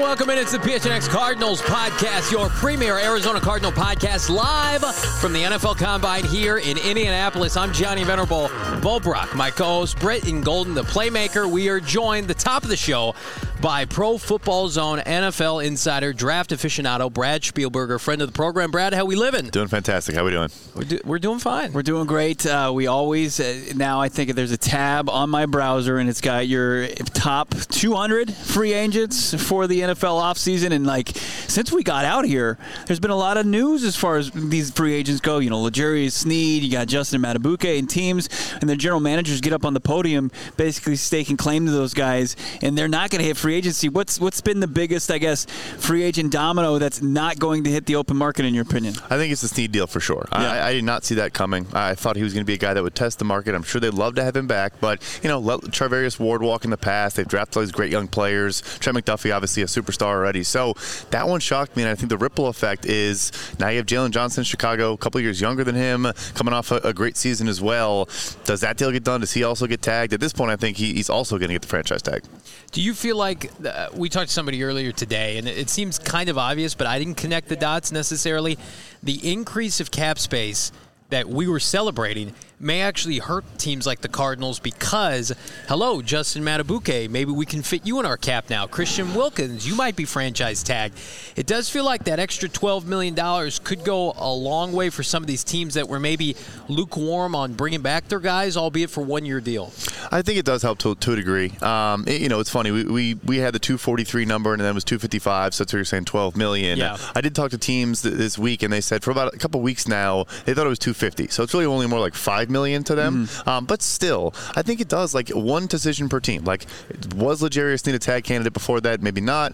welcome in. It's the PHNX Cardinals podcast, your premier Arizona Cardinal podcast, live from the NFL Combine here in Indianapolis. I'm Johnny Venerable Bulbrock, my co-host Britton Golden, the playmaker. We are joined, the top of the show, by Pro Football Zone NFL insider, draft aficionado, Brad Spielberger, friend of the program. Brad, how we living? Doing fantastic. How we doing? We're doing fine. We're doing great. We always, now I think there's a tab on my browser, and it's got your top 200 free agents for the NFL offseason. And, since we got out here, there's been a lot of news as far as these free agents go. You know, L'Jarius Sneed, you got Justin Madubuike, and teams and their general managers get up on the podium basically staking claim to those guys, and they're not going to hit free agency. What's been the biggest, free agent domino that's not going to hit the open market, in your opinion? I think it's the Sneed deal for sure. Yeah. I did not see that coming. I thought he was going to be a guy that would test the market. I'm sure they'd love to have him back, but, let Charvarius Ward walk in the past. They've drafted all these great young players. Trent McDuffie, obviously a superstar already. So that one shocked me, and I think the ripple effect is now you have Jalen Johnson in Chicago, a couple of years younger than him, coming off a great season as well. Does that deal get done? Does he also get tagged? At this point, I think he's also going to get the franchise tag. Do you feel like we talked to somebody earlier today, and it seems kind of obvious, but I didn't connect the dots necessarily. The increase of cap space that we were celebrating may actually hurt teams like the Cardinals because, hello, Justin Madubuike, maybe we can fit you in our cap now. Christian Wilkins, you might be franchise tagged. It does feel like that extra $12 million could go a long way for some of these teams that were maybe lukewarm on bringing back their guys, albeit for one-year deal. I think it does help to a degree. It's funny. We had the 243 number, and then it was 255, so that's what you're saying, $12 million. Yeah. I did talk to teams this week, and they said for about a couple weeks now, they thought it was 250. So it's really only more like $5 million to them. Mm-hmm. But still, I think it does, one decision per team. Was L'Jarius Sneed a tag candidate before that? Maybe not.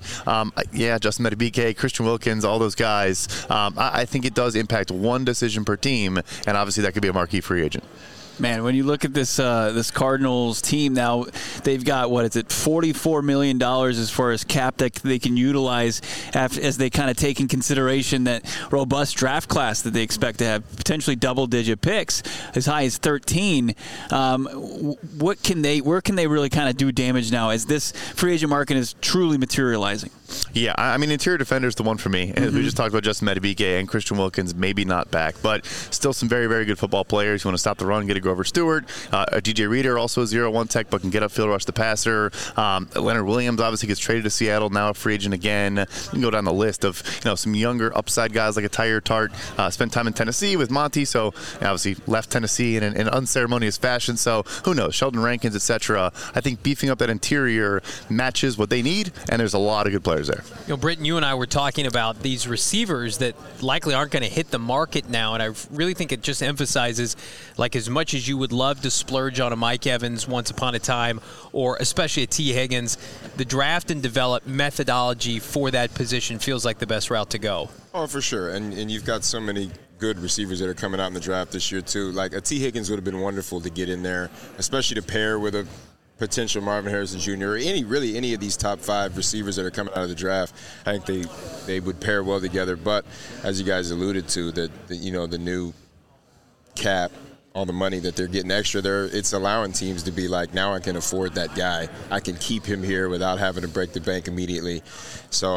Justin Madubuike, Christian Wilkins, all those guys. I think it does impact one decision per team, and obviously that could be a marquee free agent. Man, when you look at this Cardinals team now, they've got, $44 million as far as cap that they can utilize as they kind of take in consideration that robust draft class that they expect to have potentially double-digit picks, as high as 13. Where can they really kind of do damage now as this free agent market is truly materializing? Yeah, interior defender is the one for me. Mm-hmm. We just talked about Justin Madubuike and Christian Wilkins, maybe not back, but still some very, very good football players. You want to stop the run, get a Grover Stewart. DJ Reader, also a 0-1 tech, but can get upfield, rush the passer. Leonard Williams obviously gets traded to Seattle, now a free agent again. You can go down the list of some younger upside guys like a Tyler Tart. Spent time in Tennessee with Monty, so obviously left Tennessee in an unceremonious fashion. So who knows? Sheldon Rankins, etc. I think beefing up that interior matches what they need, and there's a lot of good players there. Britton, you and I were talking about these receivers that likely aren't going to hit the market now, and I really think it just emphasizes, as much as you would love to splurge on a Mike Evans once upon a time, or especially a T. Higgins, the draft and develop methodology for that position feels like the best route to go. Oh, for sure, and you've got so many good receivers that are coming out in the draft this year, too. A T. Higgins would have been wonderful to get in there, especially to pair with a potential Marvin Harrison Jr. or any of these top 5 receivers that are coming out of the draft. I think they would pair well together. But as you guys alluded to, the new cap, all the money that they're getting extra there, it's allowing teams to be now I can afford that guy. I can keep him here without having to break the bank immediately. So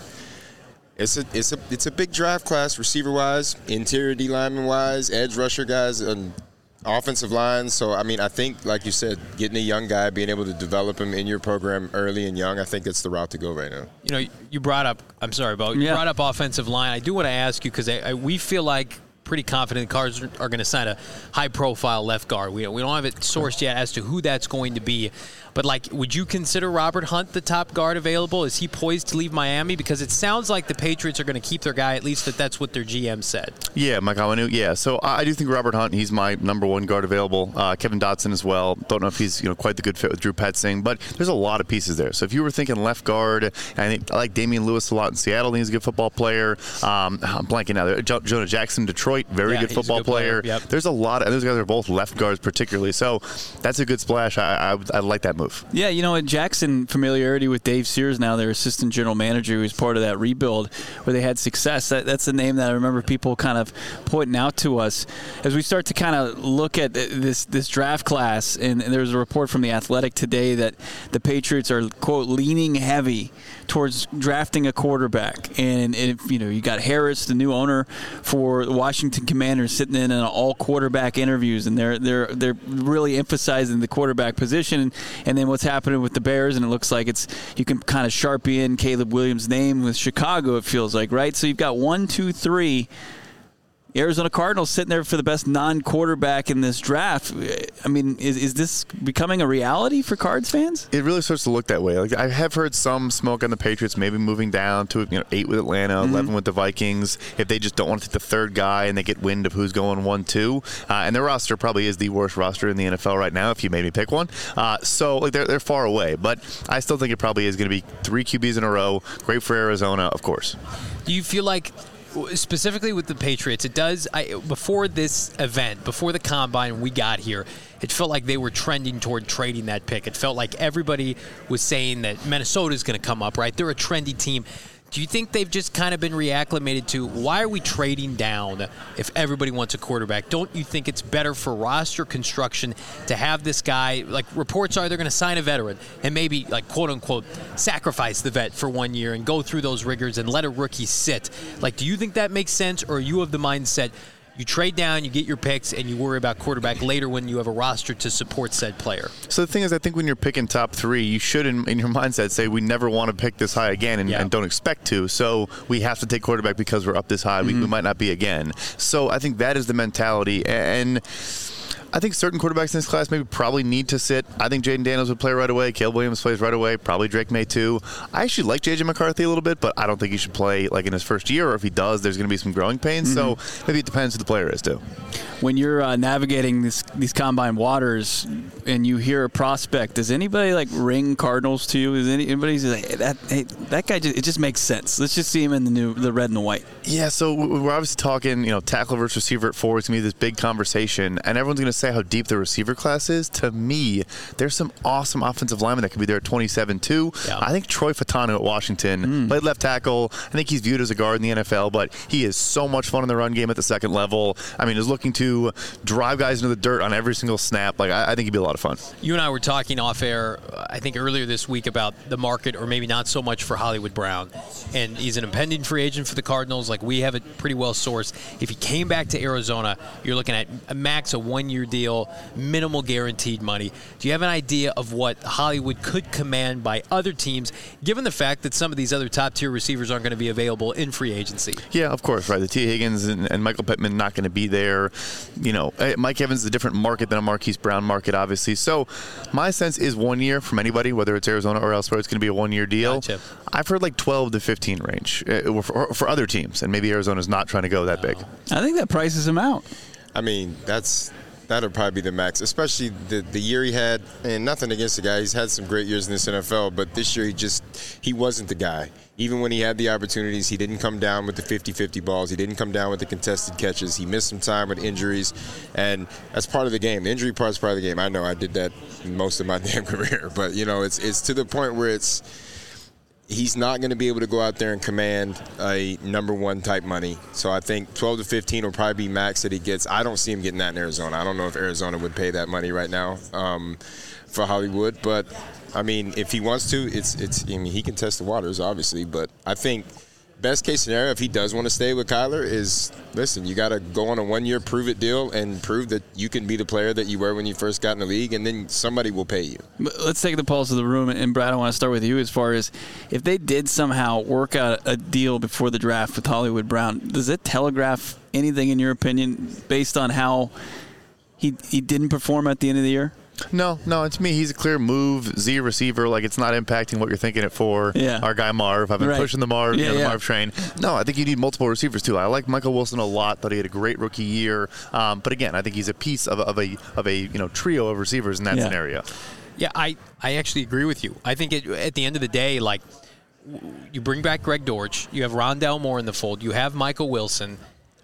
it's a big draft class, receiver wise, interior D lineman wise, edge rusher guys, and offensive line. So, I think, like you said, getting a young guy, being able to develop him in your program early and young, I think it's the route to go right now. You brought up, I'm sorry, Bo, you brought up offensive line. I do want to ask you, because we feel pretty confident the Cards are going to sign a high-profile left guard. We don't have it sourced yet as to who that's going to be. But, would you consider Robert Hunt the top guard available? Is he poised to leave Miami? Because it sounds like the Patriots are going to keep their guy, at least that's what their GM said. Yeah, Mike Awanu, yeah. So I do think Robert Hunt, he's my number one guard available. Kevin Dotson as well. Don't know if he's quite the good fit with Drew Petzing, but there's a lot of pieces there. So if you were thinking left guard, I like Damian Lewis a lot in Seattle. He's a good football player. I'm blanking now. Jonah Jackson, Detroit. Detroit, very Yeah, good he's a football good player. player. Yep. There's a lot, and those guys are both left guards particularly. So that's a good splash. I like that move. Yeah, you know what? Jackson, familiarity with Dave Sears now, their assistant general manager, who was part of that rebuild where they had success. That's a name that I remember people kind of pointing out to us as we start to kind of look at this draft class. And there was a report from The Athletic today that the Patriots are, quote, leaning heavy towards drafting a quarterback. And if, you got Harris, the new owner for the Washington Commanders, sitting in on all quarterback interviews, and they're really emphasizing the quarterback position. And then what's happening with the Bears, and it looks like you can kind of sharpie in Caleb Williams' name with Chicago, it feels like, right? So you've got 1, 2, 3 Arizona Cardinals sitting there for the best non-quarterback in this draft. I mean, is this becoming a reality for Cards fans? It really starts to look that way. Like, I have heard some smoke on the Patriots maybe moving down to 8 with Atlanta, 11 with the Vikings, if they just don't want to take the third guy and they get wind of who's going 1-2. And their roster probably is the worst roster in the NFL right now if you made me pick one. So they're far away. But I still think it probably is going to be 3 QBs in a row. Great for Arizona, of course. Do you feel like, specifically with the Patriots, before this event, before the Combine we got here, it felt like they were trending toward trading that pick. It felt like everybody was saying that Minnesota's going to come up, right? They're a trendy team. Do you think they've just kind of been reacclimated to, why are we trading down if everybody wants a quarterback? Don't you think it's better for roster construction to have this guy, like reports are they're going to sign a veteran and maybe, like, quote unquote, sacrifice the vet for 1 year and go through those rigors and let a rookie sit? Like, do you think that makes sense, or are you of the mindset you trade down, you get your picks, and you worry about quarterback later when you have a roster to support said player? So the thing is, I think when you're picking top 3, you should, in your mindset, say we never want to pick this high again and don't expect to. So we have to take quarterback because we're up this high. We might not be again. So I think that is the mentality. And I think certain quarterbacks in this class maybe probably need to sit. I think Jaden Daniels would play right away. Caleb Williams plays right away. Probably Drake May too. I actually like J.J. McCarthy a little bit, but I don't think he should play like in his first year, or if he does, there's going to be some growing pains. So maybe it depends who the player is too. When you're navigating these combine waters and you hear a prospect, does anybody like ring Cardinals to you? Is anybody like, that guy? It just makes sense. Let's just see him in the red and the white. Yeah, so we're obviously talking, tackle versus receiver at 4. It's going to be this big conversation, and everyone's going to say how deep the receiver class is. To me, there's some awesome offensive linemen that could be there at 27 too. Yeah. I think Troy Fatano at Washington played left tackle. I think he's viewed as a guard in the NFL, but he is so much fun in the run game at the second level. I mean, is looking to drive guys into the dirt on every single snap. Like, I think he'd be a lot of fun. You and I were talking off air, I think earlier this week, about the market, or maybe not so much for Hollywood Brown. And he's an impending free agent for the Cardinals. Like, we have it pretty well sourced. If he came back to Arizona, you're looking at a max, a 1-year deal, minimal guaranteed money. Do you have an idea of what Hollywood could command by other teams, given the fact that some of these other top-tier receivers aren't going to be available in free agency? Yeah, of course, right. The T. Higgins and Michael Pittman not going to be there. Mike Evans is a different market than a Marquise Brown market, obviously. So my sense is 1 year from anybody, whether it's Arizona or elsewhere, it's going to be a 1-year deal. Gotcha. I've heard like 12 to 15 range for other teams, and maybe Arizona's not trying to go that big. I think that prices him out. I mean, that'll probably be the max, especially the year he had. And nothing against the guy. He's had some great years in this NFL, but this year he wasn't the guy. Even when he had the opportunities, he didn't come down with the 50-50 balls. He didn't come down with the contested catches. He missed some time with injuries, and that's part of the game. The injury part's part of the game. I know I did that most of my damn career, but, it's to the point where he's not going to be able to go out there and command a number 1 type money. So I think 12 to 15 will probably be max that he gets. I don't see him getting that in Arizona. I don't know if Arizona would pay that money right now for Hollywood. But, I mean, if he wants to, he can test the waters, obviously. But I think best case scenario, if he does want to stay with Kyler, is, listen, you got to go on a 1-year prove-it deal and prove that you can be the player that you were when you first got in the league, and then somebody will pay you. But let's take the pulse of the room. And, Brad, I want to start with you as far as if they did somehow work out a deal before the draft with Hollywood Brown, does it telegraph anything, in your opinion, based on how he didn't perform at the end of the year? No, to me, he's a clear move, Z receiver. Like, it's not impacting what you're thinking it for. Yeah. Our guy Marv. I've been pushing the Marv, the Marv train. No, I think you need multiple receivers too. I like Michael Wilson a lot. Thought he had a great rookie year. But again, I think he's a piece of a trio of receivers in that scenario. Yeah, I actually agree with you. I think at the end of the day, like, you bring back Greg Dortch, you have Rondale Moore in the fold, you have Michael Wilson.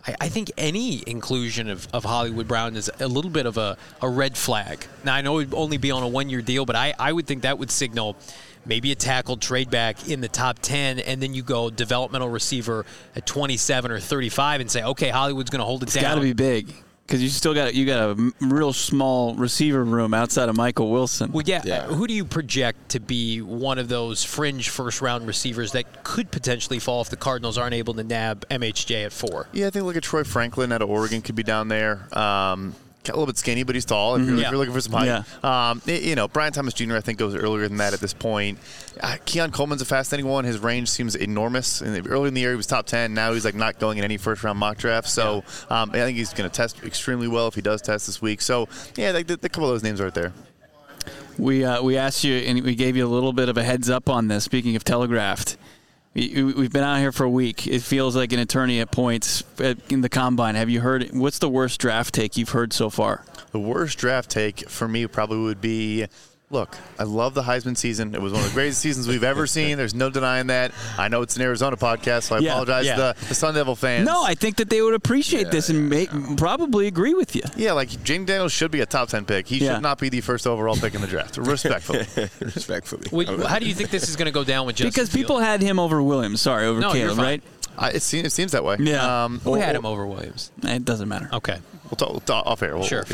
I think any inclusion of Hollywood Brown is a little bit of a red flag. Now, I know he'd only be on a one-year deal, but I would think that would signal maybe a tackle trade back in the top 10, and then you go developmental receiver at 27 or 35 and say, okay, Hollywood's going to hold it down. It's got to be big. Because you got a real small receiver room outside of Michael Wilson. Well, yeah. Who do you project to be one of those fringe first-round receivers that could potentially fall if the Cardinals aren't able to nab MHJ at 4? Yeah, I think look at Troy Franklin out of Oregon could be down there. A little bit skinny, but he's tall. If you're looking for some height, Brian Thomas Jr. I think goes earlier than that at this point. Keon Coleman's a fascinating one. His range seems enormous. Early in the year, he was top 10. Now he's not going in any first-round mock draft. So I think he's going to test extremely well if he does test this week. So a couple of those names right there. We asked you and we gave you a little bit of a heads up on this. Speaking of telegraphed. We've been out here for a week. It feels like an eternity at points in the combine. Have you heard? What's the worst draft take you've heard so far? The worst draft take for me probably would be, look, I love the Heisman season. It was one of the greatest seasons we've ever seen. There's no denying that. I know it's an Arizona podcast, so I apologize to the Sun Devil fans. No, I think that they would appreciate this and probably agree with you. Yeah, Jaden Daniels should be a top 10 pick. He should not be the first overall pick in the draft. Respectfully. How do you think this is going to go down with Justin Because people had him over Williams. Over Caleb, right? It seems that way. Yeah. Who had him over Williams? It doesn't matter. Okay. We'll talk off air. Sure.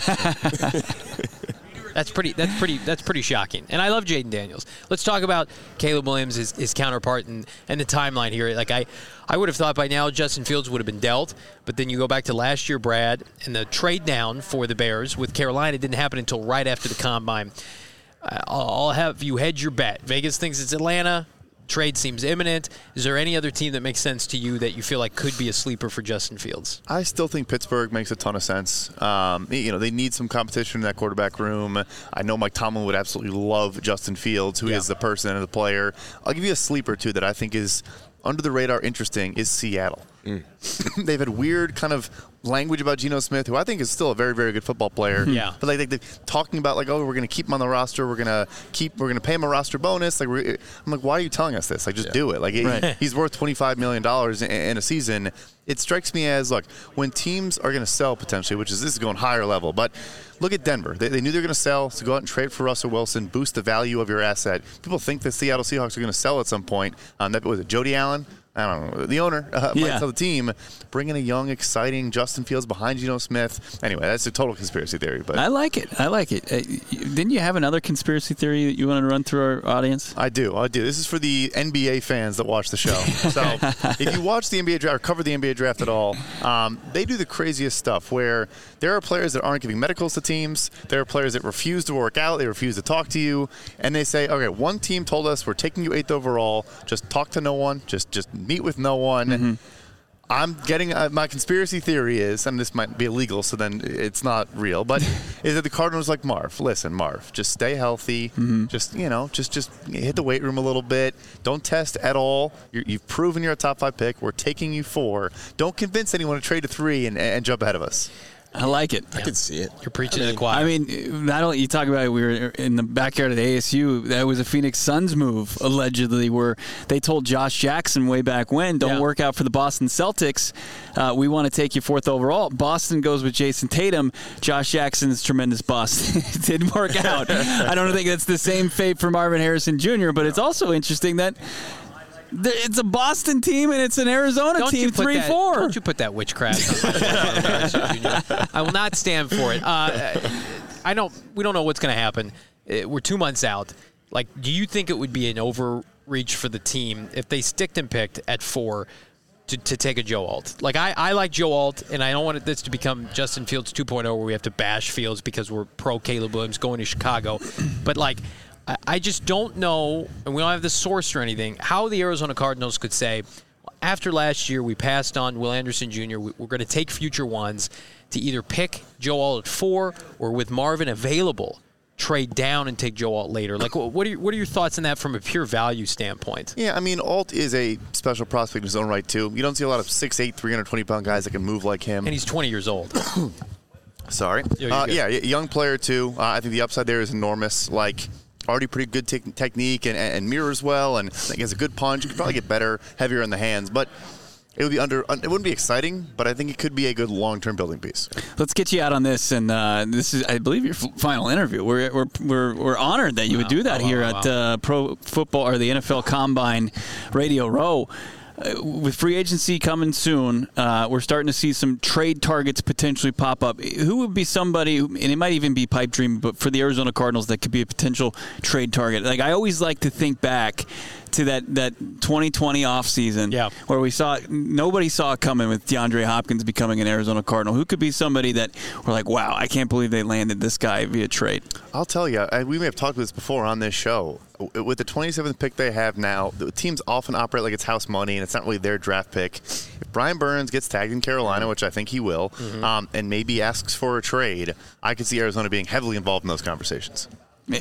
That's pretty shocking. And I love Jaden Daniels. Let's talk about Caleb Williams, his counterpart, and the timeline here. I would have thought by now Justin Fields would have been dealt, but then you go back to last year, Brad, and the trade down for the Bears with Carolina didn't happen until right after the combine. I'll have you hedge your bet. Vegas thinks it's Atlanta. Trade seems imminent. Is there any other team that makes sense to you that you feel like could be a sleeper for Justin Fields? I still think Pittsburgh makes a ton of sense. They need some competition in that quarterback room. I know Mike Tomlin would absolutely love Justin Fields, who is the person and the player. I'll give you a sleeper, too, that I think is under the radar interesting is Seattle. They've had weird kind of language about Geno Smith, who I think is still a very, very good football player. Yeah. But they're talking about we're going to keep him on the roster. We're going to pay him a roster bonus. I'm like, why are you telling us this? Just do it. He's worth $25 million in a season. It strikes me as, when teams are going to sell potentially, this is going higher level, but look at Denver. They knew they were going to sell, so go out and trade for Russell Wilson, boost the value of your asset. People think the Seattle Seahawks are going to sell at some point. That was it, Jody Allen? I don't know. The owner might tell the team, bring in a young, exciting Justin Fields behind Geno Smith. Anyway, that's a total conspiracy theory. But I like it. Didn't you have another conspiracy theory that you wanted to run through our audience? I do. This is for the NBA fans that watch the show. So if you watch the NBA draft or cover the NBA draft at all, they do the craziest stuff where there are players that aren't giving medicals to teams. There are players that refuse to work out. They refuse to talk to you. And they say, okay, one team told us we're taking you 8th overall. Just talk to no one. Just meet with no one. Mm-hmm. I'm getting my conspiracy theory is, and this might be illegal, so then it's not real, but is that the Cardinals like Marv? Listen, Marv, just stay healthy. Mm-hmm. Just hit the weight room a little bit. Don't test at all. You've proven you're a top 5 pick. We're taking you 4. Don't convince anyone to trade to 3 and jump ahead of us. I like it. I can see it. You're preaching to the choir. Not only you talk about it, we were in the backyard of the ASU. That was a Phoenix Suns move, allegedly, where they told Josh Jackson way back when, don't work out for the Boston Celtics. We want to take you 4th overall. Boston goes with Jason Tatum. Josh Jackson's tremendous bust. It didn't work out. I don't think that's the same fate for Marvin Harrison Jr., but it's also interesting that it's a Boston team and it's an Arizona team, 3-4. Don't you put that witchcraft on I will not stand for it. We don't know what's going to happen. We're 2 months out. Do you think it would be an overreach for the team if they sticked and picked at 4 to take a Joe Alt? I like Joe Alt, and I don't want this to become Justin Fields 2.0 where we have to bash Fields because we're pro Caleb Williams going to Chicago. But I just don't know, and we don't have the source or anything, how the Arizona Cardinals could say, after last year we passed on Will Anderson Jr., we're going to take future ones to either pick Joe Alt at 4 or with Marvin available, trade down and take Joe Alt later. What are your thoughts on that from a pure value standpoint? Yeah, Alt is a special prospect in his own right, too. You don't see a lot of 6'8", 320-pound guys that can move like him. And he's 20 years old. Sorry. Young player, too. I think the upside there is enormous. Already pretty good technique and mirrors well, and I think has a good punch. Could probably get better, heavier in the hands. But it would be it wouldn't be exciting, but I think it could be a good long-term building piece. Let's get you out on this, and this is, I believe, your final interview. We're honored that you would do that here at Pro Football or the NFL Combine Radio Row. With free agency coming soon, we're starting to see some trade targets potentially pop up. Who would be somebody, and it might even be pipe dream, but for the Arizona Cardinals that could be a potential trade target? Like, I always like to think back to that 2020 offseason where nobody saw it coming with DeAndre Hopkins becoming an Arizona Cardinal. Who could be somebody that we're like, wow, I can't believe they landed this guy via trade? I'll tell you, we may have talked about this before on this show. With the 27th pick they have now, the teams often operate like it's house money, and it's not really their draft pick. If Brian Burns gets tagged in Carolina, which I think he will, and maybe asks for a trade, I could see Arizona being heavily involved in those conversations.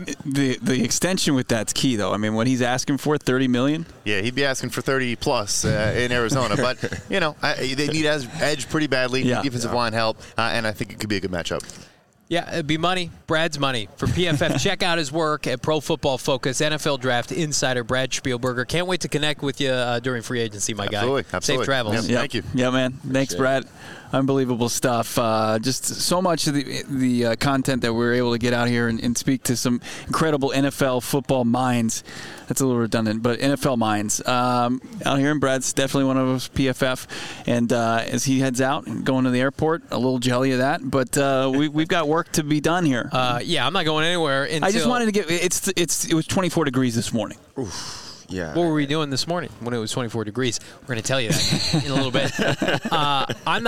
The extension with that's key, though. I mean, what he's asking for, $30 million? Yeah, he'd be asking for 30 plus in Arizona. But, they need edge pretty badly, defensive line help, and I think it could be a good matchup. Yeah, it'd be money. Brad's money. For PFF, check out his work at Pro Football Focus, NFL Draft Insider, Brad Spielberger. Can't wait to connect with you during free agency, my guy. Absolutely. Safe travels. Thank you. Yeah, man. Thanks, Brad. Unbelievable stuff. Just so much of the content that we're able to get out here and speak to some incredible NFL football minds. That's a little redundant, but NFL minds out here. And Brad's definitely one of us, PFF. And as he heads out and going to the airport, a little jelly of that. But we've got work to be done here. I'm not going anywhere until... I just wanted to get... It was 24 degrees this morning. Oof. Yeah. What were we doing this morning when it was 24 degrees? We're going to tell you that in a little bit. I'm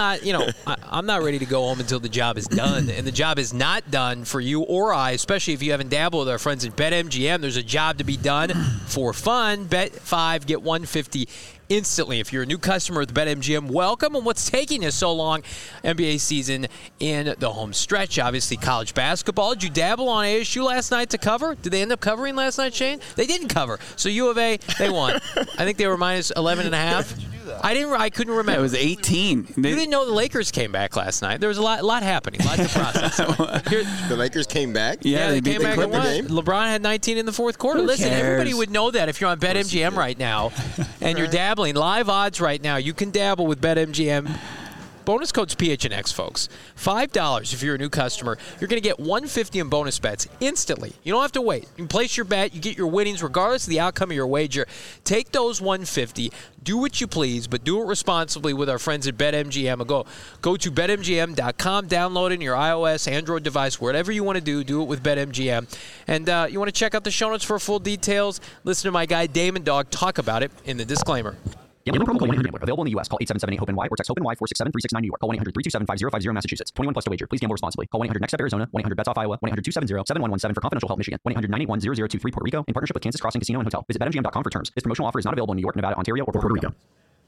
not ready to go home until the job is done, and the job is not done for you or I, especially if you haven't dabbled with our friends at BetMGM. There's a job to be done for fun. Bet 5, get 150 instantly. If you're a new customer at BetMGM, welcome. And what's taking us so long? NBA season in the home stretch. Obviously, college basketball. Did you dabble on ASU last night to cover? Did they end up covering last night, Shane? They didn't cover. So U of A, they won. I think they were minus 11.5. I couldn't remember. Yeah, it was 18. You didn't know the Lakers came back last night. There was a lot happening, a lot to process. The Lakers came back? Yeah, they came back and won. LeBron had 19 in the fourth quarter. Listen, everybody would know that if you're on BetMGM right now and you're dabbling. Live odds right now. You can dabble with BetMGM. Bonus code's PHNX, folks. $5 if you're a new customer. You're going to get $150 in bonus bets instantly. You don't have to wait. You can place your bet. You get your winnings regardless of the outcome of your wager. Take those $150. Do what you please, but do it responsibly with our friends at BetMGM. Go to BetMGM.com. Download it in your iOS, Android device, whatever you want to do it with BetMGM. And you want to check out the show notes for full details. Listen to my guy Damon Dog talk about it in the disclaimer. Gambling problem? Call 1-800-GAMBLER. Available in the U.S. Call 877-8-HOPE-NY or text HOPE-NY 467-369 New York. Call 1-800-327-5050 Massachusetts. 21 plus to wager. Please gamble responsibly. Call 1-800-NEXT-STEP Arizona. 1-800-BETS-OFF Iowa. 1-800-270-7117 for confidential help Michigan. 1-800-981-0023 Puerto Rico in partnership with Kansas Crossing Casino and Hotel. Visit BetMGM.com for terms. This promotional offer is not available in New York, Nevada, Ontario, or Puerto Rico.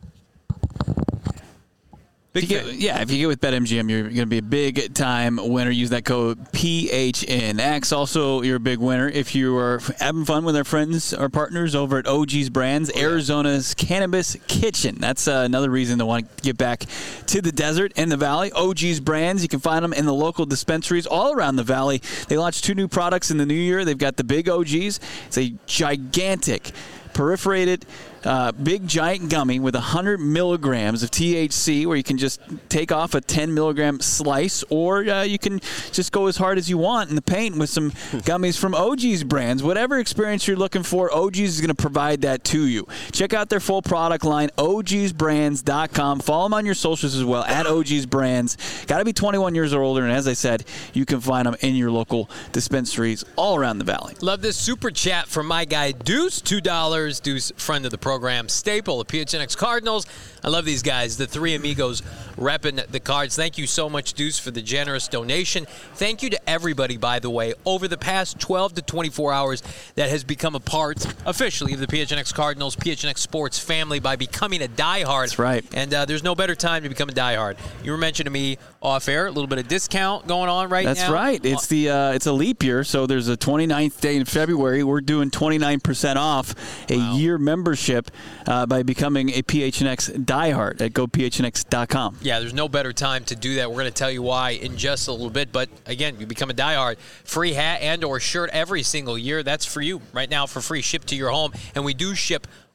If you get with BetMGM, you're going to be a big-time winner. Use that code PHNX. Also, you're a big winner if you are having fun with our friends, our partners over at OG's Brands, Arizona's Cannabis Kitchen. That's another reason to want to get back to the desert and the valley. OG's Brands, you can find them in the local dispensaries all around the valley. They launched 2 new products in the new year. They've got the Big OG's. It's a gigantic perforated big giant gummy with 100 milligrams of THC, where you can just take off a 10 milligram slice, or you can just go as hard as you want in the paint with some gummies from OG's Brands. Whatever experience you're looking for, OG's is going to provide that to you. Check out their full product line, ogsbrands.com. Follow them on your socials as well, at OG's Brands. Got to be 21 years or older, and as I said, you can find them in your local dispensaries all around the valley. Love this super chat from my guy Deuce, $2. Deuce, friend of the program, staple of PHNX Cardinals. I love these guys, the three amigos repping the Cards. Thank you so much, Deuce, for the generous donation. Thank you to everybody, by the way, over the past 12 to 24 hours that has become a part, officially, of the PHNX Cardinals, PHNX Sports family by becoming a diehard. That's right. And there's no better time to become a diehard. You were mentioning to me off air, a little bit of discount going on now. That's right. It's it's a leap year, so there's a 29th day in February. We're doing 29% off a year membership by becoming a PHNX diehard at gophnx.com. Yeah, there's no better time to do that. We're going to tell you why in just a little bit. But, again, you become a diehard. Free hat and or shirt every single year. That's for you right now for free. Shipped to your home. And we do ship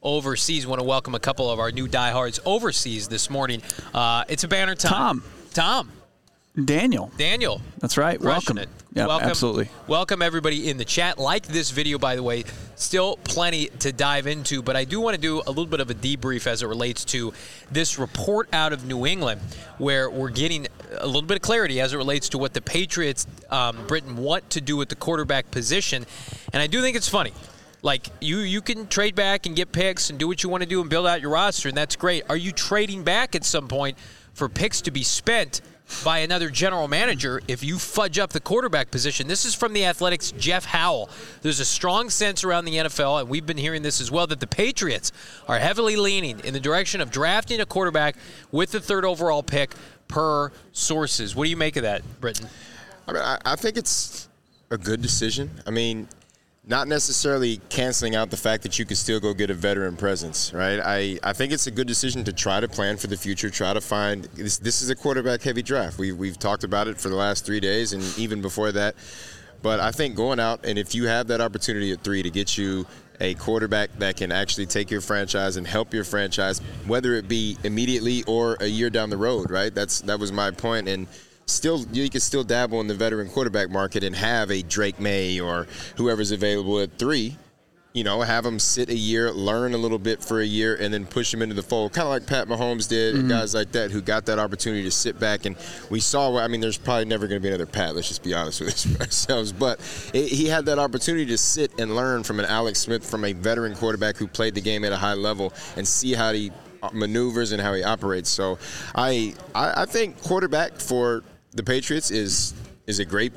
overseas. Want to welcome a couple of our new diehards overseas this morning. It's a banner time. Tom. Daniel. That's right. Crushing Welcome. It. Yeah, absolutely. Welcome everybody in the chat. Like this video, by the way. Still plenty to dive into, but I do want to do a little bit of a debrief as it relates to this report out of New England, where we're getting a little bit of clarity as it relates to what the Patriots, Britain, want to do with the quarterback position. And I do think it's funny. Like, you can trade back and get picks and do what you want to do and build out your roster, and that's great. Are you trading back at some point for picks to be spent by another general manager if you fudge up the quarterback position? This is from the Athletics' Jeff Howell. There's a strong sense around the NFL, and we've been hearing this as well, that the Patriots are heavily leaning in the direction of drafting a quarterback with the 3rd overall pick per sources. What do you make of that, Britton? I mean, I think it's a good decision. I mean, not necessarily canceling out the fact that you could still go get a veteran presence, right? I think it's a good decision to try to plan for the future, try to find – this is a quarterback-heavy draft. We've talked about it for the last 3 days and even before that. But I think going out, and if you have that opportunity at 3 to get you a quarterback that can actually take your franchise and help your franchise, whether it be immediately or a year down the road, right? That was my point. And still, you can still dabble in the veteran quarterback market and have a Drake May or whoever's available at 3, have them sit a year, learn a little bit for a year, and then push them into the fold, kind of like Pat Mahomes did, and guys like that who got that opportunity to sit back. And we saw, I mean, there's probably never going to be another Pat, let's just be honest with ourselves, but he had that opportunity to sit and learn from an Alex Smith, from a veteran quarterback who played the game at a high level, and see how he maneuvers and how he operates. So I think quarterback for the Patriots is a great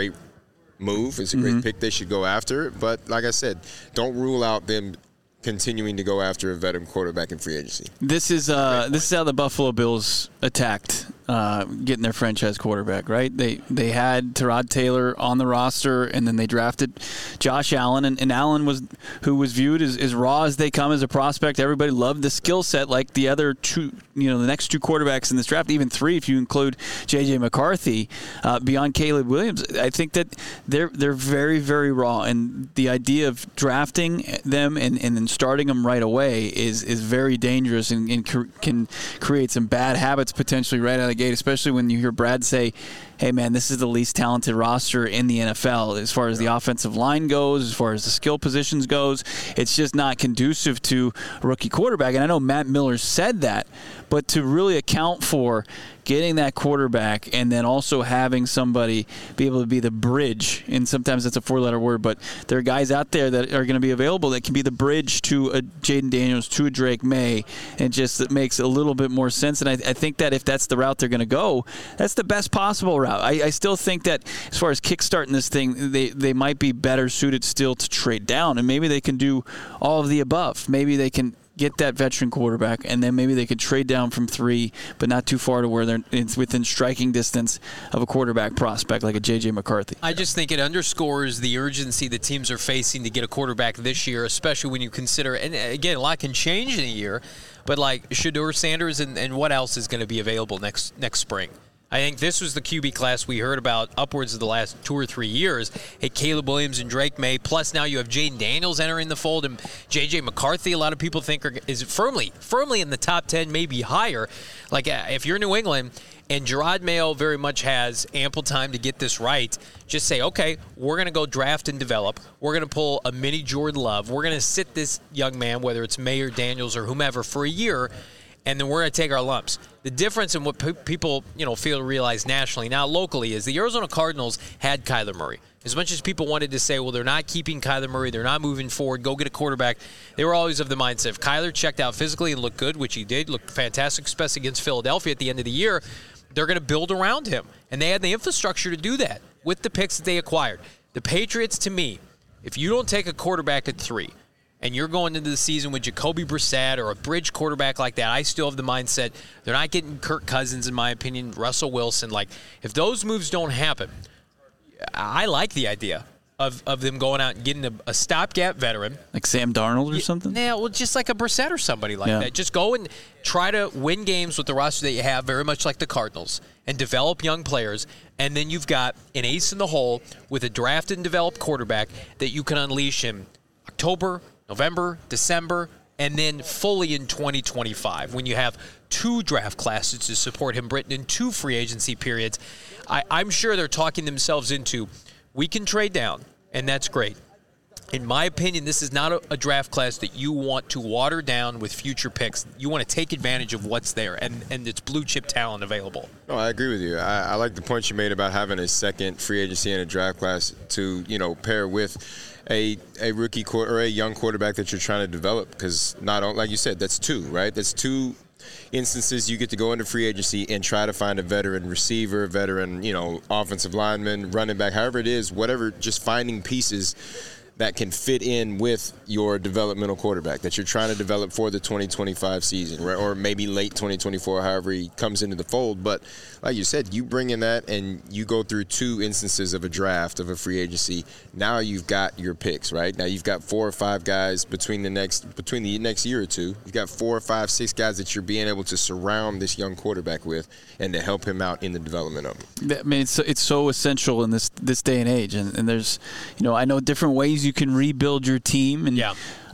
move. It's a great pick. They should go after it. But like I said, don't rule out them continuing to go after a veteran quarterback in free agency. This is how the Buffalo Bills attacked getting their franchise quarterback, right? They had Tyrod Taylor on the roster, and then they drafted Josh Allen, and Allen who was viewed as raw as they come as a prospect. Everybody loved the skill set, like the other 2, the next 2 quarterbacks in this draft, even 3 if you include J.J. McCarthy, beyond Caleb Williams. I think that they're very, very raw, and the idea of drafting them and then starting them right away is very dangerous and can create some bad habits potentially right out of the gate, especially when you hear Brad say, hey, man, this is the least talented roster in the NFL as far as the offensive line goes, as far as the skill positions goes. It's just not conducive to a rookie quarterback. And I know Matt Miller said that, but to really account for getting that quarterback and then also having somebody be able to be the bridge, and sometimes that's a 4-letter word, but there are guys out there that are going to be available that can be the bridge to a Jaden Daniels, to a Drake May, and just it makes a little bit more sense. And I think that if that's the route they're going to go, that's the best possible route. I still think that as far as kickstarting this thing, they might be better suited still to trade down, and maybe they can do all of the above. Maybe they can get that veteran quarterback, and then maybe they could trade down from 3, but not too far to where they're within striking distance of a quarterback prospect like a J.J. McCarthy. I just think it underscores the urgency that teams are facing to get a quarterback this year, especially when you consider, and again, a lot can change in a year, but like Shedeur Sanders and what else is going to be available next spring? I think this was the QB class we heard about upwards of the last 2 or 3 years. Hey, Caleb Williams and Drake May, plus now you have Jaden Daniels entering the fold, and J.J. McCarthy, a lot of people think is firmly in the top 10, maybe higher. Like, if you're New England and Gerard Mayo very much has ample time to get this right, just say, okay, we're going to go draft and develop. We're going to pull a mini Jordan Love. We're going to sit this young man, whether it's May or Daniels or whomever, for a year, and then we're going to take our lumps. The difference in what people fail to realize nationally, now locally, is the Arizona Cardinals had Kyler Murray. As much as people wanted to say, well, they're not keeping Kyler Murray, they're not moving forward, go get a quarterback, they were always of the mindset, if Kyler checked out physically and looked good, which he did, looked fantastic, especially against Philadelphia at the end of the year, they're going to build around him. And they had the infrastructure to do that with the picks that they acquired. The Patriots, to me, if you don't take a quarterback at 3, and you're going into the season with Jacoby Brissett or a bridge quarterback like that, I still have the mindset they're not getting Kirk Cousins, in my opinion, Russell Wilson. Like, if those moves don't happen, I like the idea of them going out and getting a stopgap veteran. Like Sam Darnold or something? Yeah, well, just like a Brissett or somebody like that. Just go and try to win games with the roster that you have, very much like the Cardinals, and develop young players. And then you've got an ace in the hole with a drafted and developed quarterback that you can unleash in October, November, December, and then fully in 2025 when you have 2 draft classes to support him, Britton, and 2 free agency periods. I'm sure they're talking themselves into, we can trade down, and that's great. In my opinion, this is not a draft class that you want to water down with future picks. You want to take advantage of what's there, and it's blue-chip talent available. No, I agree with you. I like the point you made about having a second free agency and a draft class to, pair with a rookie or a young quarterback that you're trying to develop, because like you said, that's 2, right? That's 2 instances you get to go into free agency and try to find a veteran receiver, veteran, offensive lineman, running back, however it is, whatever, just finding pieces that can fit in with your developmental quarterback that you're trying to develop for the 2025 season, right? Or maybe late 2024, however he comes into the fold. But like you said, you bring in that and you go through 2 instances of a draft of a free agency. Now you've got your picks, right? Now you've got 4 or 5 guys between the next year or 2. You've got 4 or 5, 6 guys that you're being able to surround this young quarterback with and to help him out in the development of him. I mean, it's so essential in this day and age. And there's, I know different ways you can rebuild your team, and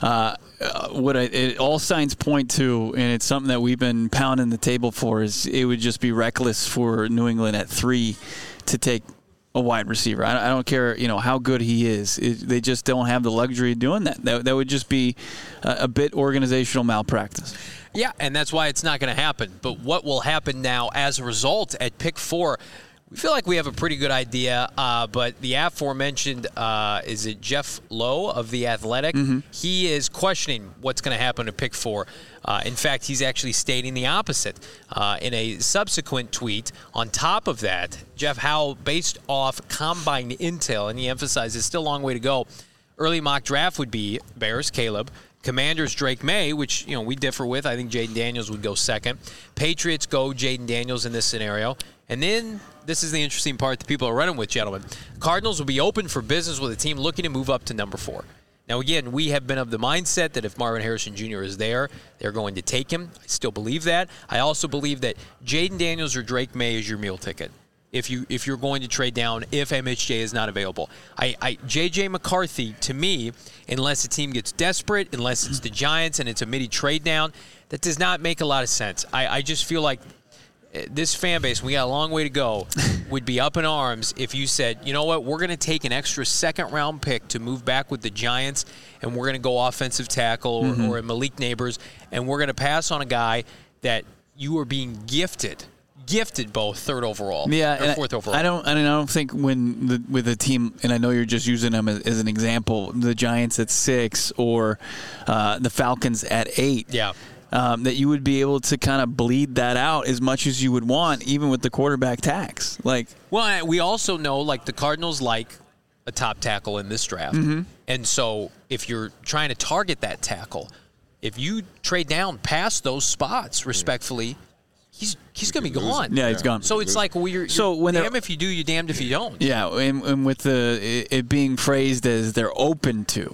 all signs point to, and it's something that we've been pounding the table for, is it would just be reckless for New England at 3 to take a wide receiver. I don't care, how good he is. They just don't have the luxury of doing that. That would just be a bit organizational malpractice. Yeah, and that's why it's not going to happen. But what will happen now as a result at pick 4? We feel like we have a pretty good idea, but the aforementioned, is it Jeff Lowe of The Athletic? Mm-hmm. He is questioning what's going to happen to pick 4. In fact, he's actually stating the opposite. In a subsequent tweet, on top of that, Jeff Howell, based off combine intel, and he emphasizes still a long way to go, early mock draft would be Bears, Caleb, Commanders, Drake May, which we differ with. I think Jaden Daniels would go second. Patriots go Jaden Daniels in this scenario. And then, this is the interesting part that people are running with, gentlemen. Cardinals will be open for business with a team looking to move up to number 4. Now, again, we have been of the mindset that if Marvin Harrison Jr. is there, they're going to take him. I still believe that. I also believe that Jaden Daniels or Drake May is your meal ticket if you're going to trade down if MHJ is not available. J.J. McCarthy, to me, unless a team gets desperate, unless it's the Giants and it's a midi trade down, that does not make a lot of sense. I just feel like this fan base, we got a long way to go, would be up in arms if you said, you know what, we're going to take an extra second-round pick to move back with the Giants, and we're going to go offensive tackle or Malik Neighbors, and we're going to pass on a guy that you are being gifted both 3rd overall or 4th overall. I don't think with a team, and I know you're just using them as an example, the Giants at 6 or the Falcons at 8. Yeah. That you would be able to kind of bleed that out as much as you would want, even with the quarterback tax. Well, we also know, the Cardinals like a top tackle in this draft. Mm-hmm. And so if you're trying to target that tackle, if you trade down past those spots, respectfully, he's going to be gone. Yeah, he's gone. So it's like, you're damned if you do, you're damned if you don't. Yeah, and with it being phrased as they're open to.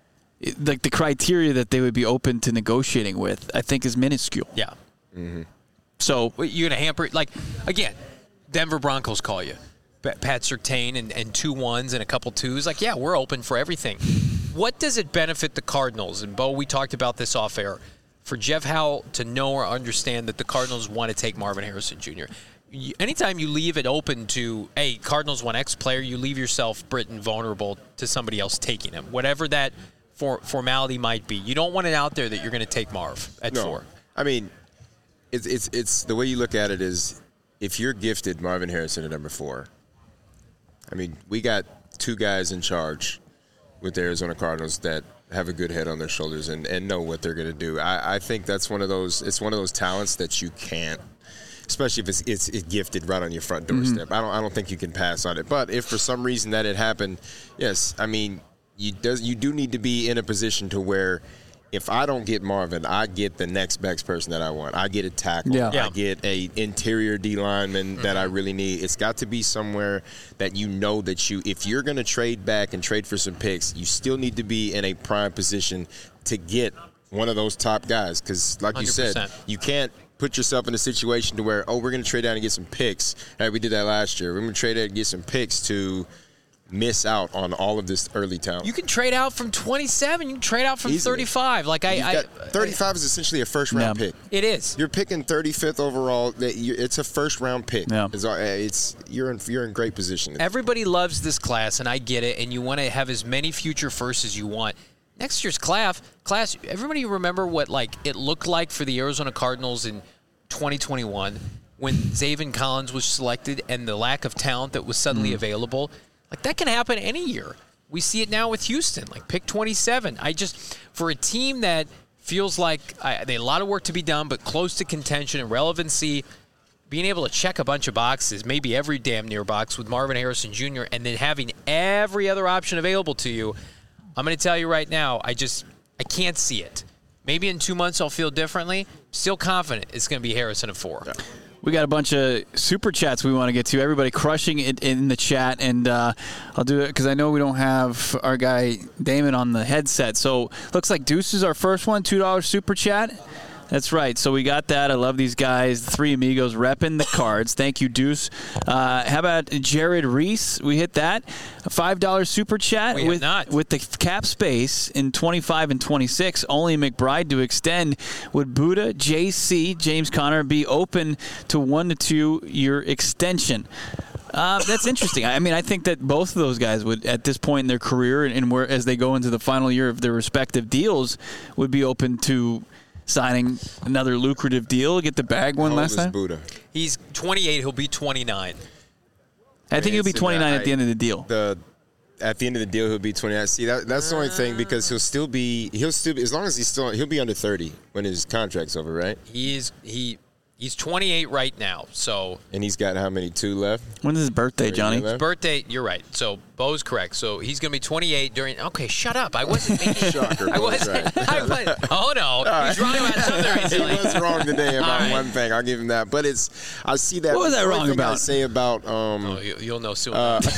The criteria that they would be open to negotiating with, I think, is minuscule. Yeah. Mm-hmm. So you're going to hamper it. Again, Denver Broncos call you. Pat Surtain and 2 1s and a couple 2s. Yeah, we're open for everything. What does it benefit the Cardinals? And, Bo, we talked about this off air. For Jeff Howell to know or understand that the Cardinals want to take Marvin Harrison Jr., anytime you leave it open to, hey, Cardinals want X player, you leave yourself, Britton, vulnerable to somebody else taking him. Whatever that formality might be. You don't want it out there that you're going to take Marv at 4. I mean, it's the way you look at it is if you're gifted Marvin Harrison at number 4, I mean, we got 2 guys in charge with the Arizona Cardinals that have a good head on their shoulders and know what they're going to do. I think that's one of those talents that you can't, especially if it's gifted right on your front doorstep. Mm-hmm. I don't think you can pass on it. But if for some reason that it happened, yes, I mean, you do need to be in a position to where if I don't get Marvin, I get the next best person that I want. I get a tackle. Yeah. I get a interior D lineman that I really need. It's got to be somewhere that if you're going to trade back and trade for some picks, you still need to be in a prime position to get one of those top guys. Because like 100%. You said, you can't put yourself in a situation to where, we're going to trade down and get some picks. Hey, we did that last year. We're going to trade out and get some picks to miss out on all of this early talent. You can trade out from 27. You can trade out from Easily. 35. 35 is essentially a first-round pick. It is. You're picking 35th overall. It's a first-round pick. Yeah. You're in great position. Everybody loves this class, and I get it, and you want to have as many future firsts as you want. Next year's class, everybody remember what it looked like for the Arizona Cardinals in 2021 when Zaven Collins was selected and the lack of talent that was suddenly available? That can happen any year. We see it now with Houston, pick 27. For a team that feels like they a lot of work to be done, but close to contention and relevancy, being able to check a bunch of boxes, maybe every damn near box with Marvin Harrison Jr., and then having every other option available to you, I'm going to tell you right now, I can't see it. Maybe in 2 months I'll feel differently. Still confident it's going to be Harrison at 4. Yeah. We got a bunch of super chats we want to get to. Everybody crushing it in the chat, and I'll do it because I know we don't have our guy Damon on the headset. So looks like Deuce is our first one, $2 super chat. That's right. So we got that. I love these guys. The three amigos repping the cards. Thank you, Deuce. How about Jared Reese? We hit that. A $5 super chat with the cap space in 25 and 26. Only McBride to extend. Would Buddha, JC, James Conner be open to 1 to 2 year extension? That's interesting. I mean, I think that both of those guys would, at this point in their career and where as they go into the final year of their respective deals, would be open to signing another lucrative deal, get the bag one last time. Buddha? He's 28. He'll be 29. I think he'll be 29 at the end of the deal. At the end of the deal, he'll be 29. See, that's the only thing because he'll be as long as he'll be under 30 when his contract's over, right? He's 28 right now, so. And he's got how many? 2 left? When's his birthday, Johnny? His birthday, you're right. So Bo's correct. So he's going to be 28 during. Okay, shut up. I wasn't thinking. Shocker. I wasn't. Right. Oh no, he's wrong about something recently. He was wrong today about one thing. I'll give him that. But I see that. What was I wrong about? I say about. You'll know soon.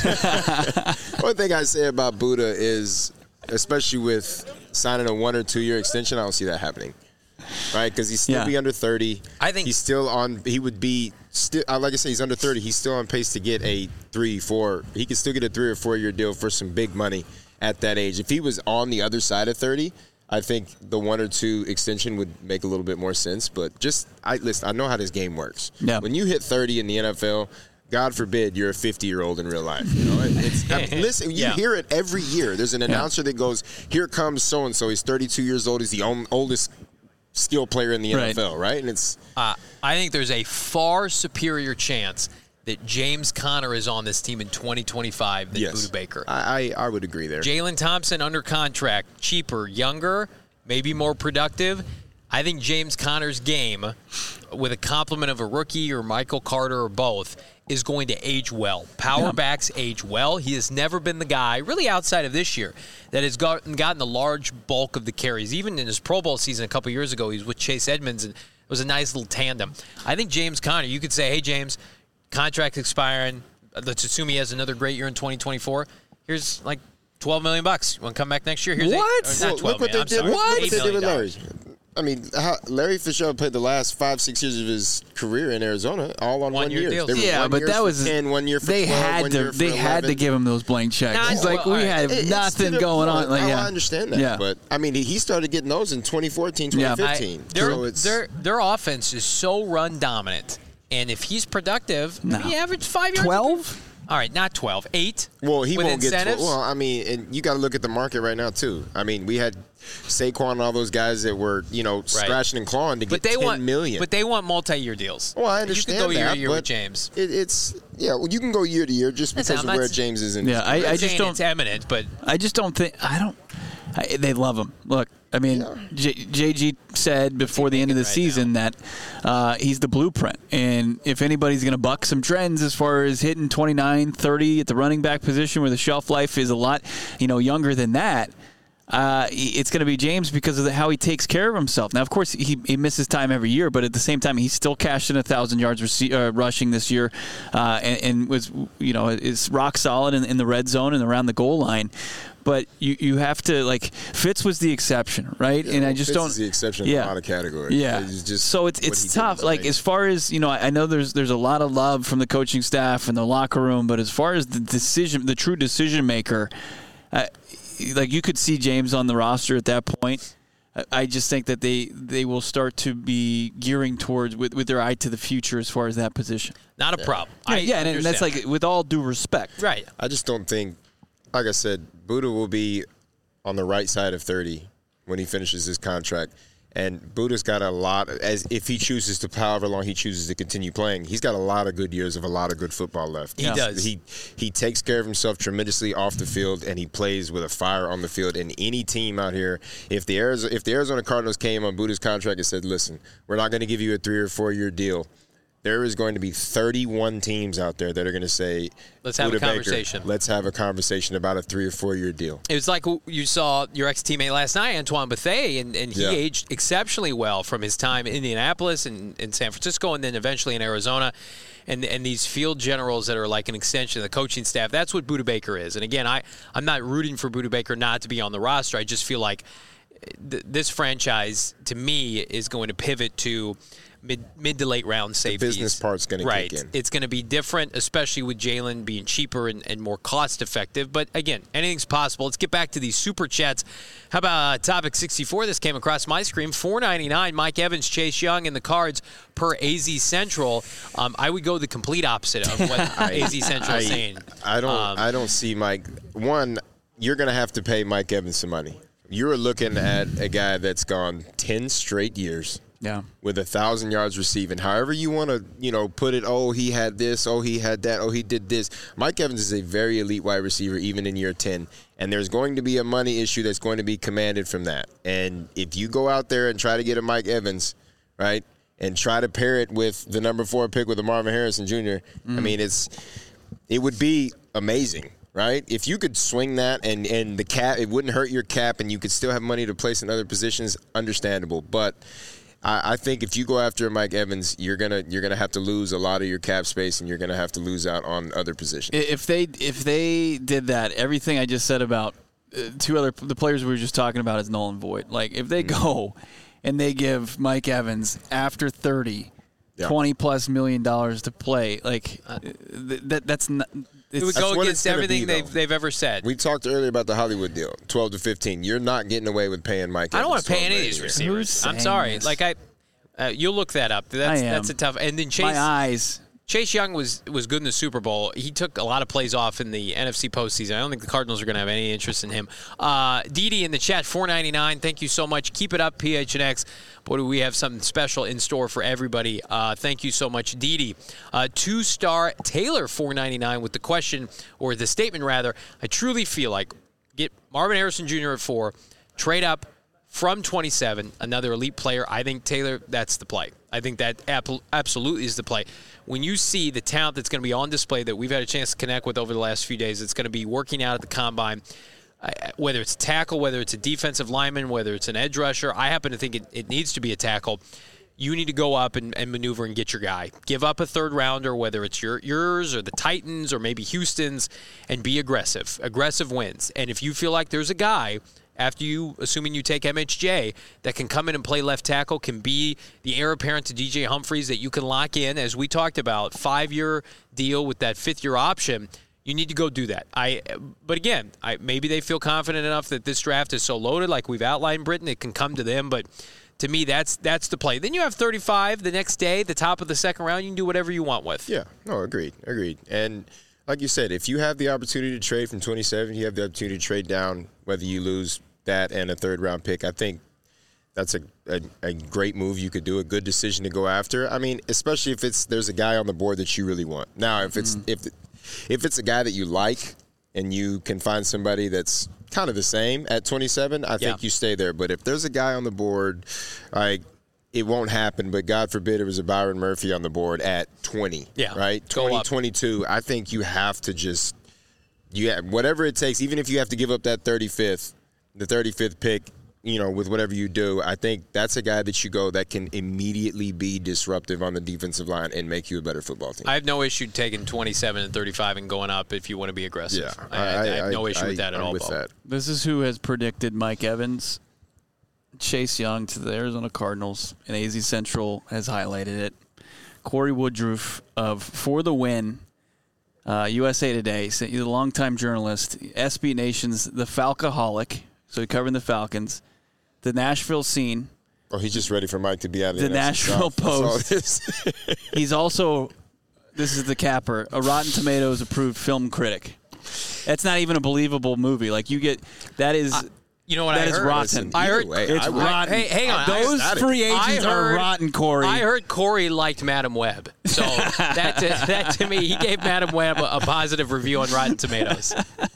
One thing I say about Buddha is, especially with signing a 1 or 2 year extension, I don't see that happening. Right, because he's still be under 30. I think he's still on. He would be still. Like I said, he's under 30. He's still on pace to get a 3-4. He could still get a 3 or 4 year deal for some big money at that age. If he was on the other side of 30, I think the 1 or 2 extension would make a little bit more sense. But listen, I know how this game works. Yeah. When you hit 30 in the NFL, God forbid you're a 50-year-old in real life. You know, listen, you hear it every year. There's an announcer that goes, "Here comes so and so. He's 32 years old. He's the oldest skill player in the NFL, right?" And it's. I think there's a far superior chance that James Conner is on this team in 2025 than Buddha Baker. I would agree there. Jalen Thompson under contract, cheaper, younger, maybe more productive. I think James Conner's game, with a complement of a rookie or Michael Carter or both, is going to age well. Power backs age well. He has never been the guy, really outside of this year, that has gotten the large bulk of the carries. Even in his Pro Bowl season a couple years ago, he was with Chase Edmonds, and it was a nice little tandem. I think James Conner, you could say, hey, James, contract expiring. Let's assume he has another great year in 2024. Here's like $12 million. You want to come back next year? Here's what? Not 12 look what million. they did. What they did with Larry. I mean, Larry Fitzgerald played the last 5-6 years of his career in Arizona, all on 1 year. deals. But that was 10, 1 year for they 12, had 1 to year for they 11. had to give him those blank checks. He's like, we had nothing going on. Like, I understand that. Yeah. But I mean, he started getting those in 2014, 2015. Their offense is so run dominant, and if he's productive, he averaged 5 yards. 12. All right, not 12, 8. Well, he with won't get 12. incentives. Well, I mean, and you got to look at the market right now too. I mean, we had Saquon and all those guys that were, scratching and clawing to get $10 million. But they want multi-year deals. Well, I understand you can go year that, to year but with James. Well, you can go year to year just because of where James is in. Yeah, I just don't. It's eminent, but I just don't think. They love him. Look, I mean, JG said before the end of the season that he's the blueprint. And if anybody's going to buck some trends as far as hitting 29, 30 at the running back position where the shelf life is a lot, younger than that, It's going to be James because of how he takes care of himself. Now, of course, he misses time every year, but at the same time, he still cashed in 1,000 yards rushing this year, and was is rock solid in the red zone and around the goal line. But you have to, like, Fitz was the exception, right? Yeah, and I just Fitz don't. is the exception in a lot of categories. Yeah. So it's tough. Like, as far as, I know there's a lot of love from the coaching staff and the locker room, but as far as the true decision maker, like, you could see James on the roster at that point. I just think that they will start to be gearing towards with their eye to the future as far as that position. Not a problem. And that's like, with all due respect. Right. I just don't think, like I said, Buddha will be on the right side of 30 when he finishes his contract. And Buddha's got a lot, as if he chooses to, however long he chooses to continue playing, he's got a lot of good years of a lot of good football left. He does. He takes care of himself tremendously off the field, and he plays with a fire on the field. And any team out here, if the Arizona Cardinals came on Buddha's contract and said, listen, we're not going to give you a 3 or 4 year deal, there is going to be 31 teams out there that are going to say, let's have a conversation. Let's have a conversation about a 3 or 4 year deal. It was like you saw your ex-teammate last night, Antoine Bethea, and he aged exceptionally well from his time in Indianapolis and in San Francisco and then eventually in Arizona. And these field generals that are like an extension of the coaching staff, that's what Budda Baker is. And again, I'm not rooting for Budda Baker not to be on the roster. I just feel like this franchise, to me, is going to pivot to mid to late round safeties. The business part's going to kick in. It's going to be different, especially with Jalen being cheaper and more cost effective. But again, anything's possible. Let's get back to these super chats. How about topic 64? This came across my screen. $4.99. Mike Evans, Chase Young, and the Cards per AZ Central. I would go the complete opposite of what AZ Central is saying. I don't see Mike. One, you're going to have to pay Mike Evans some money. You're looking at a guy that's gone 10 straight years. Yeah. With 1,000 yards receiving. However you want to, put it, oh, he had this, oh, he had that, oh, he did this. Mike Evans is a very elite wide receiver even in year 10. And there's going to be a money issue that's going to be commanded from that. And if you go out there and try to get a Mike Evans, right, and try to pair it with the number 4 pick with a Marvin Harrison Jr., I mean, it would be amazing. Right? If you could swing that and the cap, it wouldn't hurt your cap and you could still have money to place in other positions, understandable. But I think if you go after Mike Evans, you're gonna have to lose a lot of your cap space and you're gonna have to lose out on other positions. If they did that, everything I just said about the players we were just talking about is null and void. Like, if they go and they give Mike Evans after 30 $20+ million to play, like that's not. It would go against everything they've ever said. We talked earlier about the Hollywood deal, 12 to 15. You're not getting away with paying Mike Evans. I don't want to pay any of these receivers. I'm sorry. Like you'll look that up. That's a tough. And then Chase Young was good in the Super Bowl. He took a lot of plays off in the NFC postseason. I don't think the Cardinals are going to have any interest in him. Didi in the chat, $4.99. Thank you so much. Keep it up, PHNX. Boy, do we have something special in store for everybody. Thank you so much, Didi. 2-star Taylor, $4.99 with the question, or the statement rather. I truly feel like get Marvin Harrison Jr. at 4, trade up from 27, another elite player. I think, Taylor, that's the play. I think that absolutely is the play. When you see the talent that's going to be on display that we've had a chance to connect with over the last few days, it's going to be working out at the combine, whether it's a tackle, whether it's a defensive lineman, whether it's an edge rusher. I happen to think it needs to be a tackle. You need to go up and maneuver and get your guy. Give up a third rounder, whether it's yours or the Titans or maybe Houston's, and be aggressive. Aggressive wins. And if you feel like there's a guy after you, assuming you take MHJ, that can come in and play left tackle, can be the heir apparent to DJ Humphries that you can lock in, as we talked about, 5-year deal with that 5th-year option, you need to go do that. But again, maybe they feel confident enough that this draft is so loaded, like we've outlined, Britton, it can come to them. But to me, that's the play. Then you have 35 the next day, the top of the second round. You can do whatever you want with. Yeah, no, agreed. And like you said, if you have the opportunity to trade from 27, you have the opportunity to trade down, whether you lose that and a 3rd-round pick. I think that's a great move you could do, a good decision to go after. I mean, especially if there's a guy on the board that you really want. Now, if it's a guy that you like and you can find somebody that's kind of the same at 27, I think you stay there. But if there's a guy on the board, like, it won't happen, but God forbid it was a Byron Murphy on the board at 20, right? 20, 22, I think you have to just whatever it takes, even if you have to give up that 35th, the 35th pick, with whatever you do, I think that's a guy that you go that can immediately be disruptive on the defensive line and make you a better football team. I have no issue taking 27 and 35 and going up if you want to be aggressive. Yeah, I have no issue with that at all. With that. This is who has predicted Mike Evans, Chase Young to the Arizona Cardinals, and AZ Central has highlighted it. Corey Woodruff of For the Win, USA Today, he's a longtime journalist, SB Nation's The Falcoholic, so he's covering the Falcons, the Nashville Scene. Oh, he's just ready for Mike to be out of the Nashville Post. He's also, this is the capper, a Rotten Tomatoes approved film critic. That's not even a believable movie. Like that is. You know what that I is heard? rotten. I heard it's rotten. Hey, hang on. Those free agents are rotten, Corey. I heard Corey liked Madam Web, so that to me, he gave Madam Web a positive review on Rotten Tomatoes.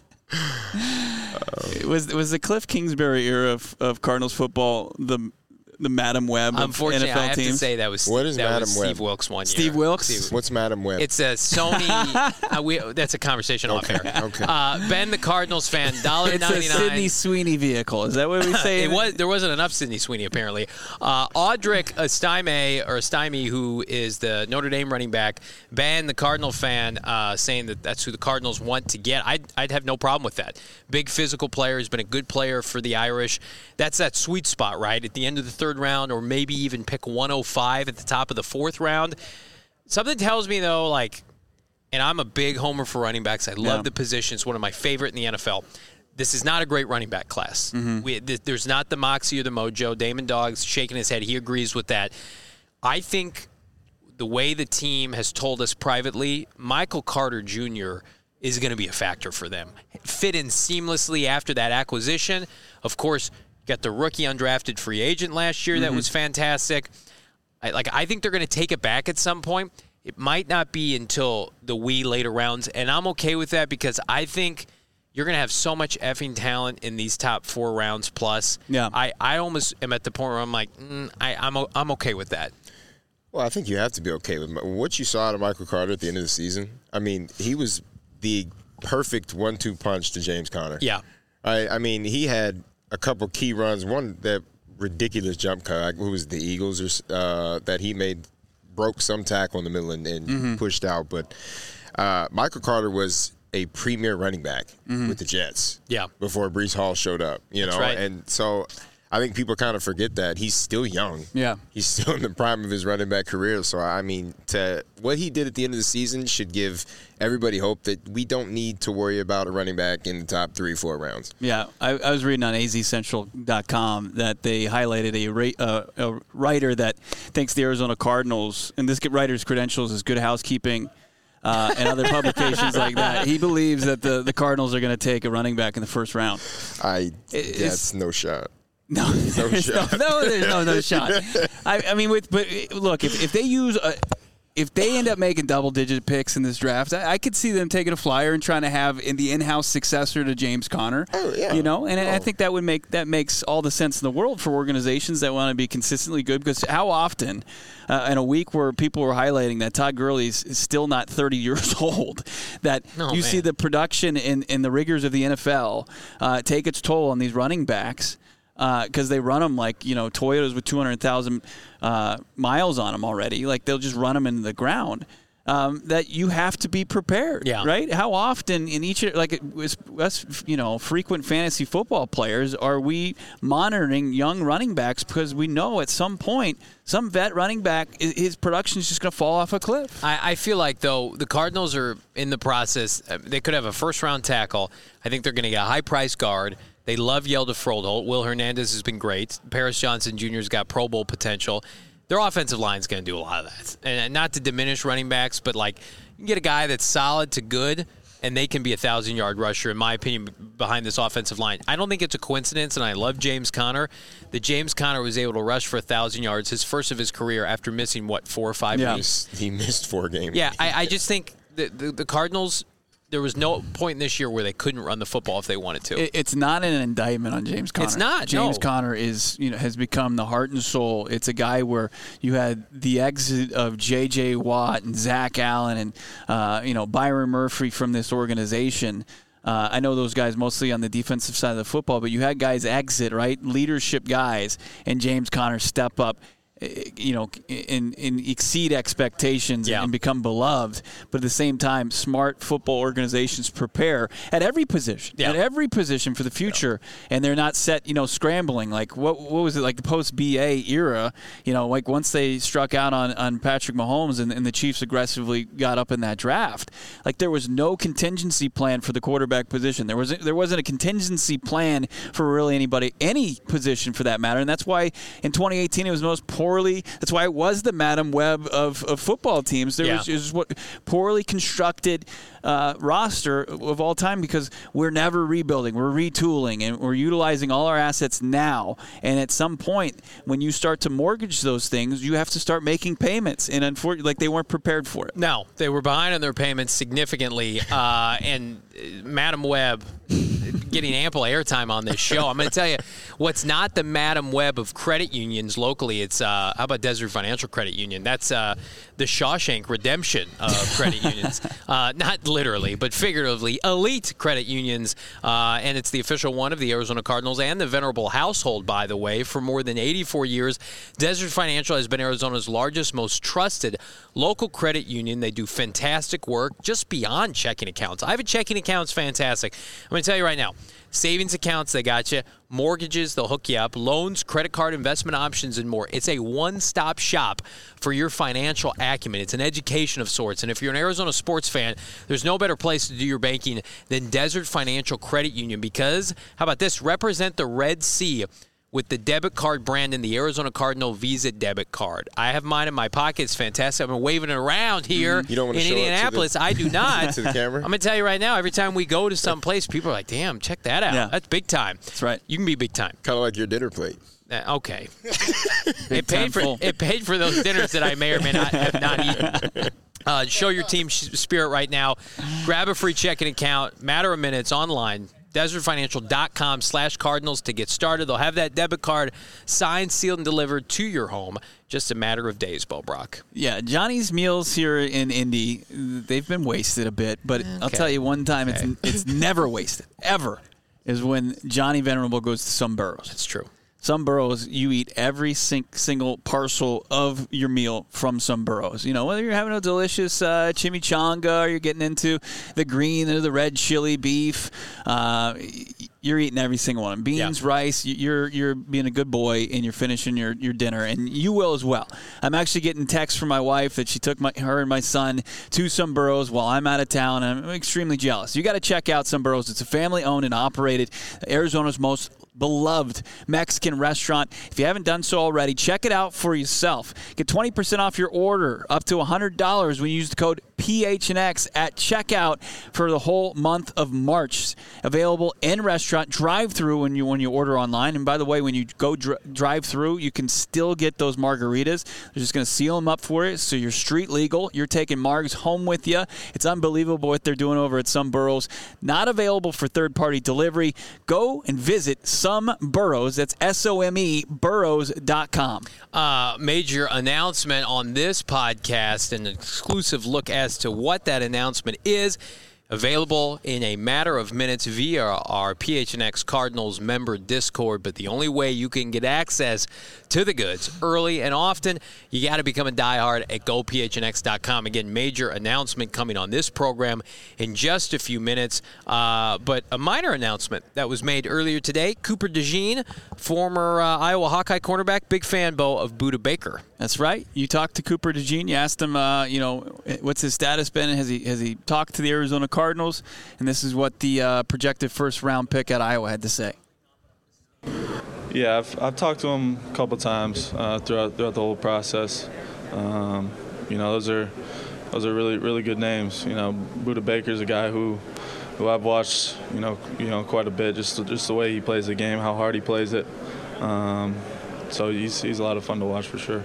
It was the Cliff Kingsbury era of Cardinals football the Madam Web of Unfortunately, NFL I have teams. to say that was What is Madam was Web? Steve Wilkes one year. Steve Wilkes? What's Madam Web? It's a Sony. That's a conversation off air. Okay. Ben, the Cardinals fan, $1.99. It's a Sidney Sweeney vehicle. Is that what we say? There wasn't enough Sidney Sweeney apparently. Audric Estime, who is the Notre Dame running back, Ben, the Cardinal fan, saying that's who the Cardinals want to get. I'd have no problem with that. Big physical player, has been a good player for the Irish. That's that sweet spot, right? At the end of the third round, or maybe even pick 105 at the top of the fourth round. Something tells me, though, and I'm a big homer for running backs. I love the position. It's one of my favorite in the NFL. This is not a great running back class. Mm-hmm. There's not the moxie or the mojo. Damon Dogg's shaking his head. He agrees with that. I think the way the team has told us privately, Michael Carter Jr. is going to be a factor for them. Fit in seamlessly after that acquisition. Of course, got the rookie undrafted free agent last year. That was fantastic. I think they're going to take it back at some point. It might not be until the later rounds, and I'm okay with that because I think you're going to have so much effing talent in these top 4 rounds plus. Yeah. I almost am at the point where I'm like, I'm okay with that. Well, I think you have to be okay with what you saw out of Michael Carter at the end of the season. I mean, he was the perfect 1-2 punch to James Conner. Yeah. I mean, he had a couple key runs. One, that ridiculous jump cut, who was the Eagles, that he made, broke some tackle in the middle and pushed out. But Michael Carter was a premier running back with the Jets. Yeah. Before Breece Hall showed up, That's right. And so I think people kind of forget that he's still young. Yeah. He's still in the prime of his running back career. So, I mean, what he did at the end of the season should give everybody hope that we don't need to worry about a running back in the top 3-4 rounds. Yeah, I was reading on azcentral.com that they highlighted a writer that thinks the Arizona Cardinals, and this writer's credentials is Good Housekeeping and other publications like that. He believes that the Cardinals are going to take a running back in the first round. That's no shot. No there's no shot. I mean, but look, if they use if they end up making double-digit picks in this draft, I could see them taking a flyer and trying to have the in-house successor to James Conner. Oh, yeah. I think that makes all the sense in the world for organizations that want to be consistently good. Because how often, in a week where people were highlighting that Todd Gurley is still not 30 years old, that see the production in the rigors of the NFL take its toll on these running backs. Because they run them like, Toyotas with 200,000 miles on them already. Like, they'll just run them into the ground. That you have to be prepared, right? How often in each, us, frequent fantasy football players, are we monitoring young running backs because we know at some point some vet running back, his production is just going to fall off a cliff? I feel like, though, the Cardinals are in the process. They could have a first-round tackle. I think they're going to get a high-priced guard. They love Yelda Froholt. Will Hernandez has been great. Paris Johnson Jr.'s got Pro Bowl potential. Their offensive line's going to do a lot of that. And not to diminish running backs, but, you can get a guy that's solid to good, and they can be a 1,000-yard rusher, in my opinion, behind this offensive line. I don't think it's a coincidence, and I love James Conner, that James Conner was able to rush for 1,000 yards, his first of his career, after missing, 4 or 5 games? He missed 4 games. Yeah, I just think the Cardinals, there was no point in this year where they couldn't run the football if they wanted to. It's not an indictment on James Conner. It's not. James Conner has become the heart and soul. It's a guy where you had the exit of J.J. Watt and Zach Allen and Byron Murphy from this organization. I know those guys mostly on the defensive side of the football, but you had guys exit, right? Leadership guys, and James Conner step up, and exceed expectations and become beloved. But at the same time, smart football organizations prepare at every position, for the future, and they're not set, scrambling. Like what was it like the post-BA era? Like once they struck out on Patrick Mahomes and the Chiefs aggressively got up in that draft, like there was no contingency plan for the quarterback position. There wasn't a contingency plan for really any position for that matter, and that's why in 2018 it was the most that's why it was the Madam Web of football teams. It was what poorly constructed roster of all time, because we're never rebuilding. We're retooling, and we're utilizing all our assets now. And at some point, when you start to mortgage those things, you have to start making payments. And unfortunately, they weren't prepared for it. No, they were behind on their payments significantly. And Madam Web getting ample airtime on this show. I'm going to tell you what's not the Madam Web of credit unions locally. It's how about Desert Financial Credit Union? That's the Shawshank Redemption of credit unions. Not literally, but figuratively, elite credit unions. And it's the official one of the Arizona Cardinals and the Venerable household, by the way. For more than 84 years, Desert Financial has been Arizona's largest, most trusted local credit union. They do fantastic work just beyond checking accounts. I have a checking account. It's fantastic. I'm going to tell you right now, savings accounts, they got you. Mortgages, they'll hook you up. Loans, credit card, investment options, and more. It's a one-stop shop for your financial acumen. It's an education of sorts. And if you're an Arizona sports fan, there's no better place to do your banking than Desert Financial Credit Union, because, how about this, represent the Red Sea with the debit card brand in the Arizona Cardinal Visa debit card. I have mine in my pocket. It's fantastic. I've been waving it around here you don't want to in show Indianapolis. I do not. To the camera? I'm going to tell you right now, every time we go to some place, people are like, damn, check that out. Yeah. That's big time. That's right. You can be big time. Kind of like your dinner plate. Okay. It paid for those dinners that I may or may not have not eaten. Show your team spirit right now. Grab a free checking account. Matter of minutes online. DesertFinancial.com/Cardinals to get started. They'll have that debit card signed, sealed, and delivered to your home. Just a matter of days, Bo Brock. Yeah, Johnny's meals here in Indy, they've been wasted a bit. But I'll tell you one time, it's never wasted, ever, is when Johnny Venerable goes to Some Burros. That's true. Some Burros, you eat every single parcel of your meal from Some Burros. Whether you're having a delicious chimichanga or you're getting into the green or the red chili beef, you're eating every single one. Beans, rice, you're being a good boy and you're finishing your dinner, and you will as well. I'm actually getting texts from my wife that she took her and my son to Some Burros while I'm out of town, and I'm extremely jealous. You got to check out Some Burros. It's a family-owned and operated, Arizona's most beloved Mexican restaurant. If you haven't done so already, check it out for yourself. Get 20% off your order, up to $100 when you use the code PHNX at checkout for the whole month of March. Available in restaurant, drive-through when you order online. And by the way, when you go drive-through, you can still get those margaritas. They're just going to seal them up for you, so you're street legal. You're taking margs home with you. It's unbelievable what they're doing over at Some Burros. Not available for third-party delivery. Go and visit Some Burros. That's SOME burros.com. Major announcement on this podcast, an exclusive look as to what that announcement is. Available in a matter of minutes via our PHNX Cardinals member Discord, but the only way you can get access to the goods early and often, you got to become a diehard at GoPHNX.com. Again, major announcement coming on this program in just a few minutes, but a minor announcement that was made earlier today. Cooper DeJean, former Iowa Hawkeye cornerback, big fan, Bo, of Budda Baker. That's right. You talked to Cooper DeJean. You asked him, what's his status been? Has he talked to the Arizona Cardinals? And this is what the projected first-round pick at Iowa had to say. Yeah, I've talked to him a couple times throughout the whole process. Those are really, really good names. Budda Baker's a guy who I've watched quite a bit, just the way he plays the game, how hard he plays it. So he's a lot of fun to watch for sure.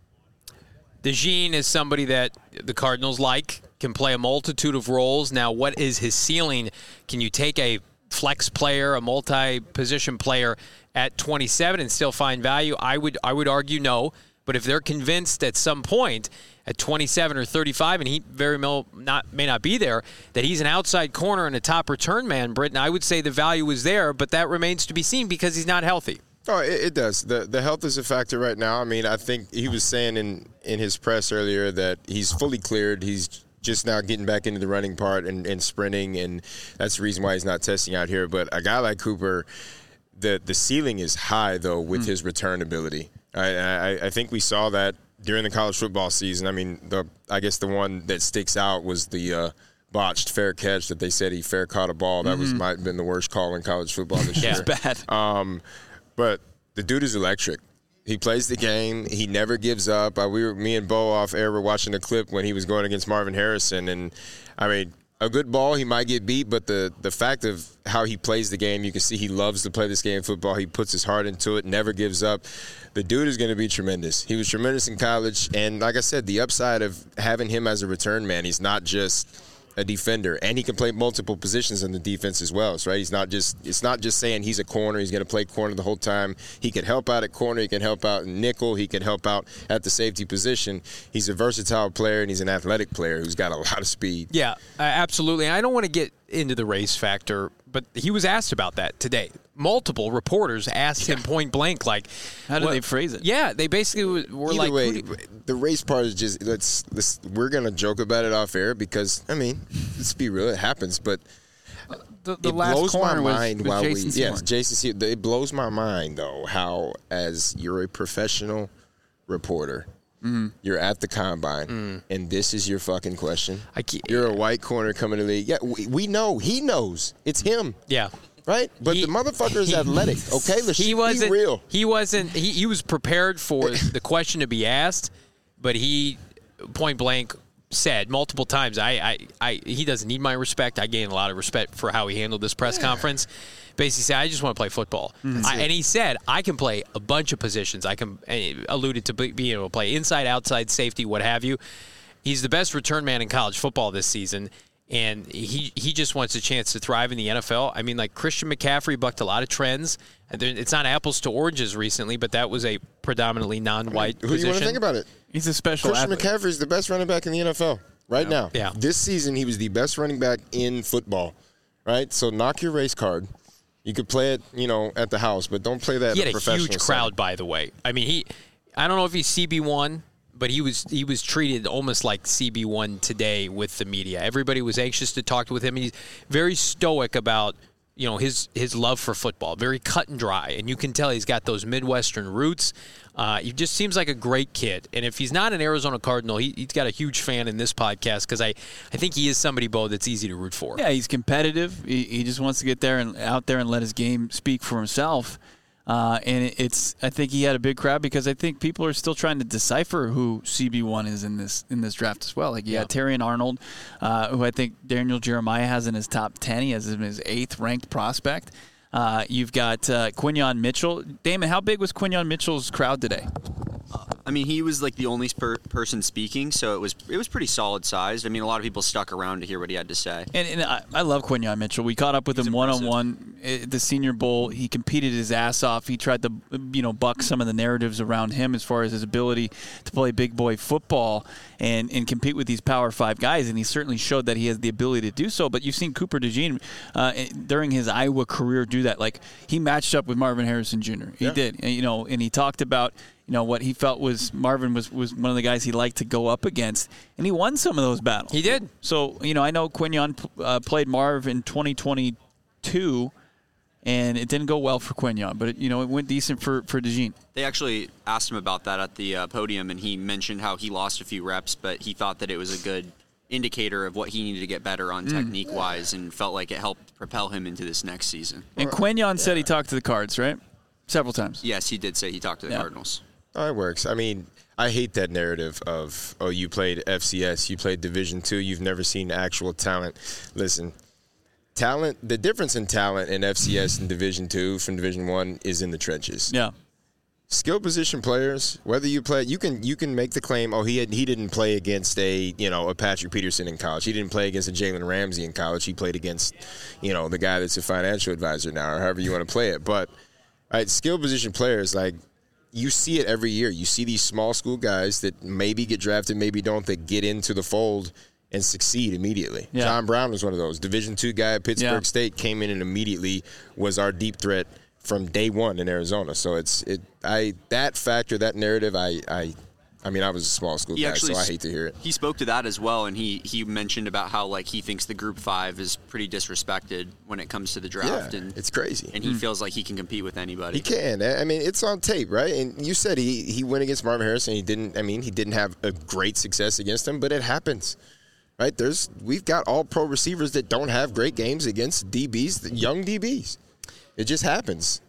DeJean is somebody that the Cardinals like, can play a multitude of roles. Now, what is his ceiling? Can you take a flex player, a multi-position player at 27 and still find value? I would argue no, But if they're convinced at some point at 27 or 35, and he very may not be there, that he's an outside corner and a top return man, Britton, I would say the value is there, but that remains to be seen because he's not healthy. Oh, it does. The health is a factor right now. I mean, I think he was saying in his press earlier that he's fully cleared. He's just now getting back into the running part and sprinting, and that's the reason why he's not testing out here. But a guy like Cooper, the ceiling is high, though, with his return ability. I think we saw that during the college football season. I mean, I guess the one that sticks out was the botched fair catch that they said he fair caught a ball. That might have been the worst call in college football this year. It's bad. But the dude is electric. He plays the game. He never gives up. Me and Bo off air were watching the clip when he was going against Marvin Harrison, and I mean, a good ball, he might get beat, but the fact of how he plays the game, you can see he loves to play this game of football. He puts his heart into it, never gives up. The dude is going to be tremendous. He was tremendous in college, and like I said, the upside of having him as a return man, he's not just a defender, and he can play multiple positions in the defense as well. So, right? It's not just saying he's a corner. He's going to play corner the whole time. He can help out at corner. He can help out in nickel. He can help out at the safety position. He's a versatile player, and he's an athletic player who's got a lot of speed. Yeah, absolutely. I don't want to get into the race factor, but he was asked about that today. Multiple reporters asked him point blank, like, how did they phrase it? Yeah, they basically were Either like, way, the race part is just we're gonna joke about it off air because I mean, let's be real, it happens. But The it last blows my corner mind was while Jason Seymour. yes, Jason Seymour. It blows my mind though how, as you're a professional reporter, you're at the combine, and this is your fucking question. You're a white corner coming to the league. Yeah, we know. He knows. It's him. yeah. Right? But the motherfucker is athletic, okay? Let's be real. He was prepared for the question to be asked, but he point blank said multiple times, he doesn't need my respect. I gain a lot of respect for how he handled this press conference. Basically said, I just want to play football. And he said, I can play a bunch of positions. I can alluded to being able to play inside, outside, safety, what have you. He's the best return man in college football this season. And he just wants a chance to thrive in the NFL. I mean, like Christian McCaffrey bucked a lot of trends. It's not apples to oranges recently, but that was a predominantly non-white position. Who do you want to think about it? He's a special Christian athlete. McCaffrey is the best running back in the NFL right now. Yeah. This season, he was the best running back in football, right? So knock your race card. You could play it, at the house, but don't play that He at a had a professional huge crowd, by the way. I mean, I don't know if he's CB1, but he was treated almost like CB1 today with the media. Everybody was anxious to talk with him. He's very stoic about his love for football, very cut and dry, and you can tell he's got those Midwestern roots. He just seems like a great kid, and if he's not an Arizona Cardinal, he's got a huge fan in this podcast because I think he is somebody, Bo, that's easy to root for. Yeah, he's competitive. He just wants to get there and out there and let his game speak for himself. And I think he had a big crowd because I think people are still trying to decipher who CB1 is in this draft as well. Like you got Terrion Arnold, who I think Daniel Jeremiah has in his top 10. He has him as his 8th ranked prospect. You've got Quinyon Mitchell. Damon, how big was Quinyon Mitchell's crowd today? I mean, he was like the only person speaking, so it was pretty solid sized. I mean, a lot of people stuck around to hear what he had to say. And I love Quinyon Mitchell. We caught up with him one-on-one at the Senior Bowl. He competed his ass off. He tried to buck some of the narratives around him as far as his ability to play big boy football and compete with these Power 5 guys, and he certainly showed that he has the ability to do so. But you've seen Cooper DeJean during his Iowa career do that. Like, he matched up with Marvin Harrison Jr. He did. And he talked about what he felt was Marvin was one of the guys he liked to go up against, and he won some of those battles. He did. So, I know Quinyon played Marv in 2022, and it didn't go well for Quinyon, but it went decent for DeJean. They actually asked him about that at the podium, and he mentioned how he lost a few reps, but he thought that it was a good indicator of what he needed to get better on technique-wise, and felt like it helped propel him into this next season. And Quinyon said he talked to the Cards, right? Several times. Yes, he did say he talked to the Cardinals. Oh, it works. I mean, I hate that narrative of, you played FCS, you played Division II, you've never seen actual talent. Listen, talent, the difference in talent in FCS and Division II from Division I is in the trenches. Yeah. Skill position players, whether you play, you can make the claim, he didn't play against a Patrick Peterson in college. He didn't play against a Jalen Ramsey in college. He played against, the guy that's a financial advisor now, or however you want to play it. But skill position players, like, you see it every year. You see these small school guys that maybe get drafted, maybe don't, that get into the fold and succeed immediately. Yeah. John Brown was one of those. Division II guy at Pittsburgh State came in and immediately was our deep threat from day one in Arizona. So that factor, that narrative, I mean, I was a small school guy, so I hate to hear it. He spoke to that as well, and he mentioned about how he thinks the Group 5 is pretty disrespected when it comes to the draft. Yeah, and it's crazy. And he feels like he can compete with anybody. He can. I mean, it's on tape, right? And you said he went against Marvin Harrison. He didn't have a great success against him, but it happens, right? We've got all pro receivers that don't have great games against DBs, young DBs. It just happens.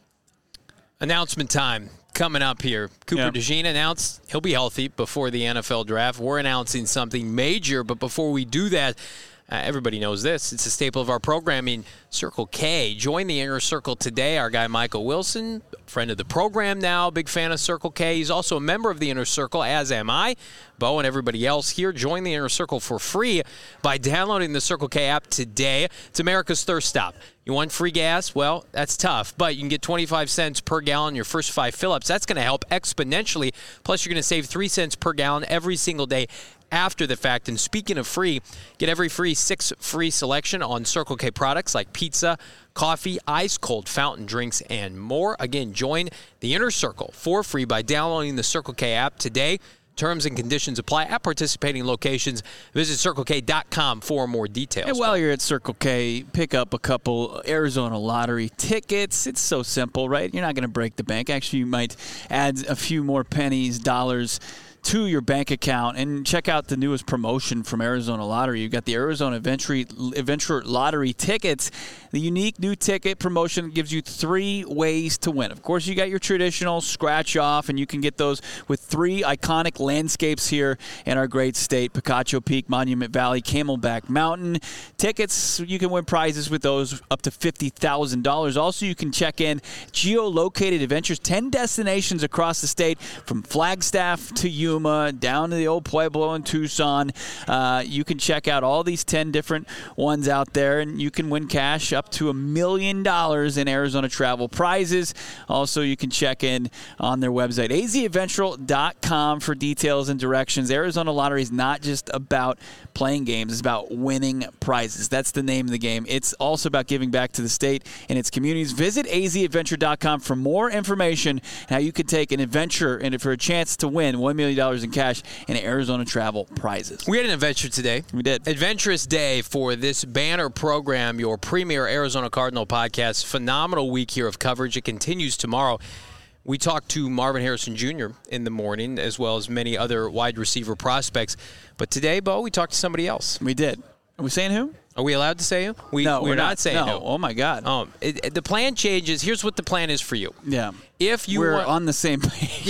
Announcement time coming up here. Cooper DeJean announced he'll be healthy before the NFL draft. We're announcing something major, but before we do that, everybody knows this. It's a staple of our programming, Circle K. Join the Inner Circle today. Our guy Michael Wilson, friend of the program now, big fan of Circle K. He's also a member of the Inner Circle, as am I. Bo and everybody else here, join the Inner Circle for free by downloading the Circle K app today. It's America's thirst stop. You want free gas? Well, that's tough, but you can get 25 cents per gallon your first 5 fill-ups. That's going to help exponentially. Plus, you're going to save 3 cents per gallon every single day after the fact. And speaking of free, get every free 6 free selection on Circle K products like pizza, coffee, ice cold fountain drinks, and more. Again, join the Inner Circle for free by downloading the Circle K app today. Terms and conditions apply at participating locations. Visit CircleK.com for more details. And while you're at Circle K, pick up a couple Arizona Lottery tickets. It's so simple, right? You're not going to break the bank. Actually, you might add a few more pennies, dollars to your bank account. And check out the newest promotion from Arizona Lottery. You've got the Arizona Adventure Lottery tickets. The unique new ticket promotion gives you 3 ways to win. Of course, you got your traditional scratch off, and you can get those with 3 iconic landscapes here in our great state: Picacho Peak, Monument Valley, Camelback Mountain. Tickets, you can win prizes with those up to $50,000. Also, you can check in geolocated adventures, 10 destinations across the state, from Flagstaff to Yuma, down to the old Pueblo in Tucson. You can check out all these 10 different ones out there, and you can win cash up to $1 million in Arizona travel prizes. Also, you can check in on their website, azadventural.com, for details and directions. Arizona Lottery is not just about playing games. It's about winning prizes. That's the name of the game. It's also about giving back to the state and its communities. Visit azadventure.com for more information on how you can take an adventure and for a chance to win $1 million in cash and Arizona travel prizes. We had an adventure today. We did. Adventurous day for this banner program, your premier Arizona Cardinal podcast. Phenomenal week here of coverage. It continues tomorrow. We talked to Marvin Harrison Jr. in the morning, as well as many other wide receiver prospects. But today, Bo, we talked to somebody else. We did. Are we saying who? Are we allowed to say who? No, we're not saying who. Oh, my God. The plan changes. Here's what the plan is for you. Yeah. If you We're on the same page.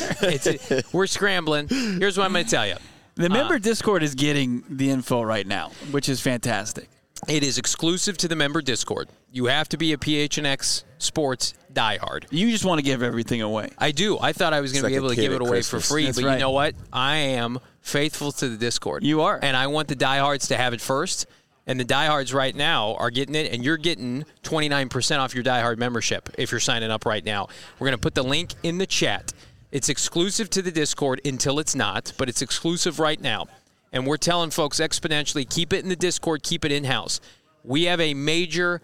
Yes. We're scrambling. Here's what I'm going to tell you. The member Discord is getting the info right now, which is fantastic. It is exclusive to the member Discord. You have to be a PHNX Sports diehard. You just want to give everything away. I do. I thought I was going to be able to give it away for free, That's but right. you know what? I am faithful to the Discord. You are. And I want the diehards to have it first. And the diehards right now are getting it, and you're getting 29% off your diehard membership if you're signing up right now. We're going to put the link in the chat. It's exclusive to the Discord until it's not, but it's exclusive right now. And we're telling folks exponentially, keep it in the Discord, keep it in-house. We have a major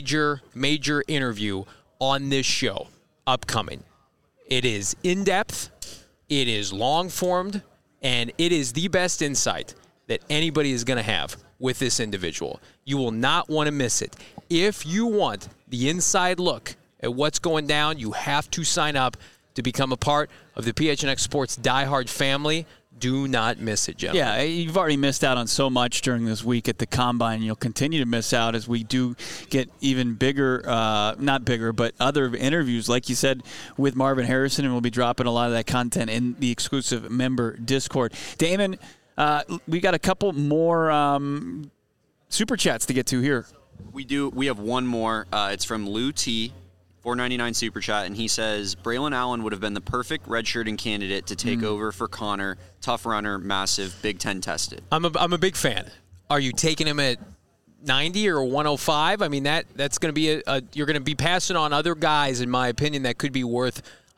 interview on this show upcoming. It is in-depth, it is long-formed, and it is the best insight that anybody is going to have with this individual. You will not want to miss it. If you want the inside look at what's going down, you have to sign up to become a part of the PHNX Sports diehard family. Do not miss it, gentlemen. Yeah, you've already missed out on so much during this week at the Combine. You'll continue to miss out as we do get even bigger, not bigger, but other interviews, like you said, with Marvin Harrison, and we'll be dropping a lot of that content in the exclusive member Discord. Damon, we got a couple more Super Chats to get to here. We do. We have one more. It's from Lou T. $4.99 Super Chat, and he says, Braylon Allen would have been the perfect redshirting candidate to take over for Connor. Tough runner, massive, Big Ten tested. I'm a big fan. Are you taking him at 90 or 105? I mean, that's going to be you're going to be passing on other guys, in my opinion, that could be worth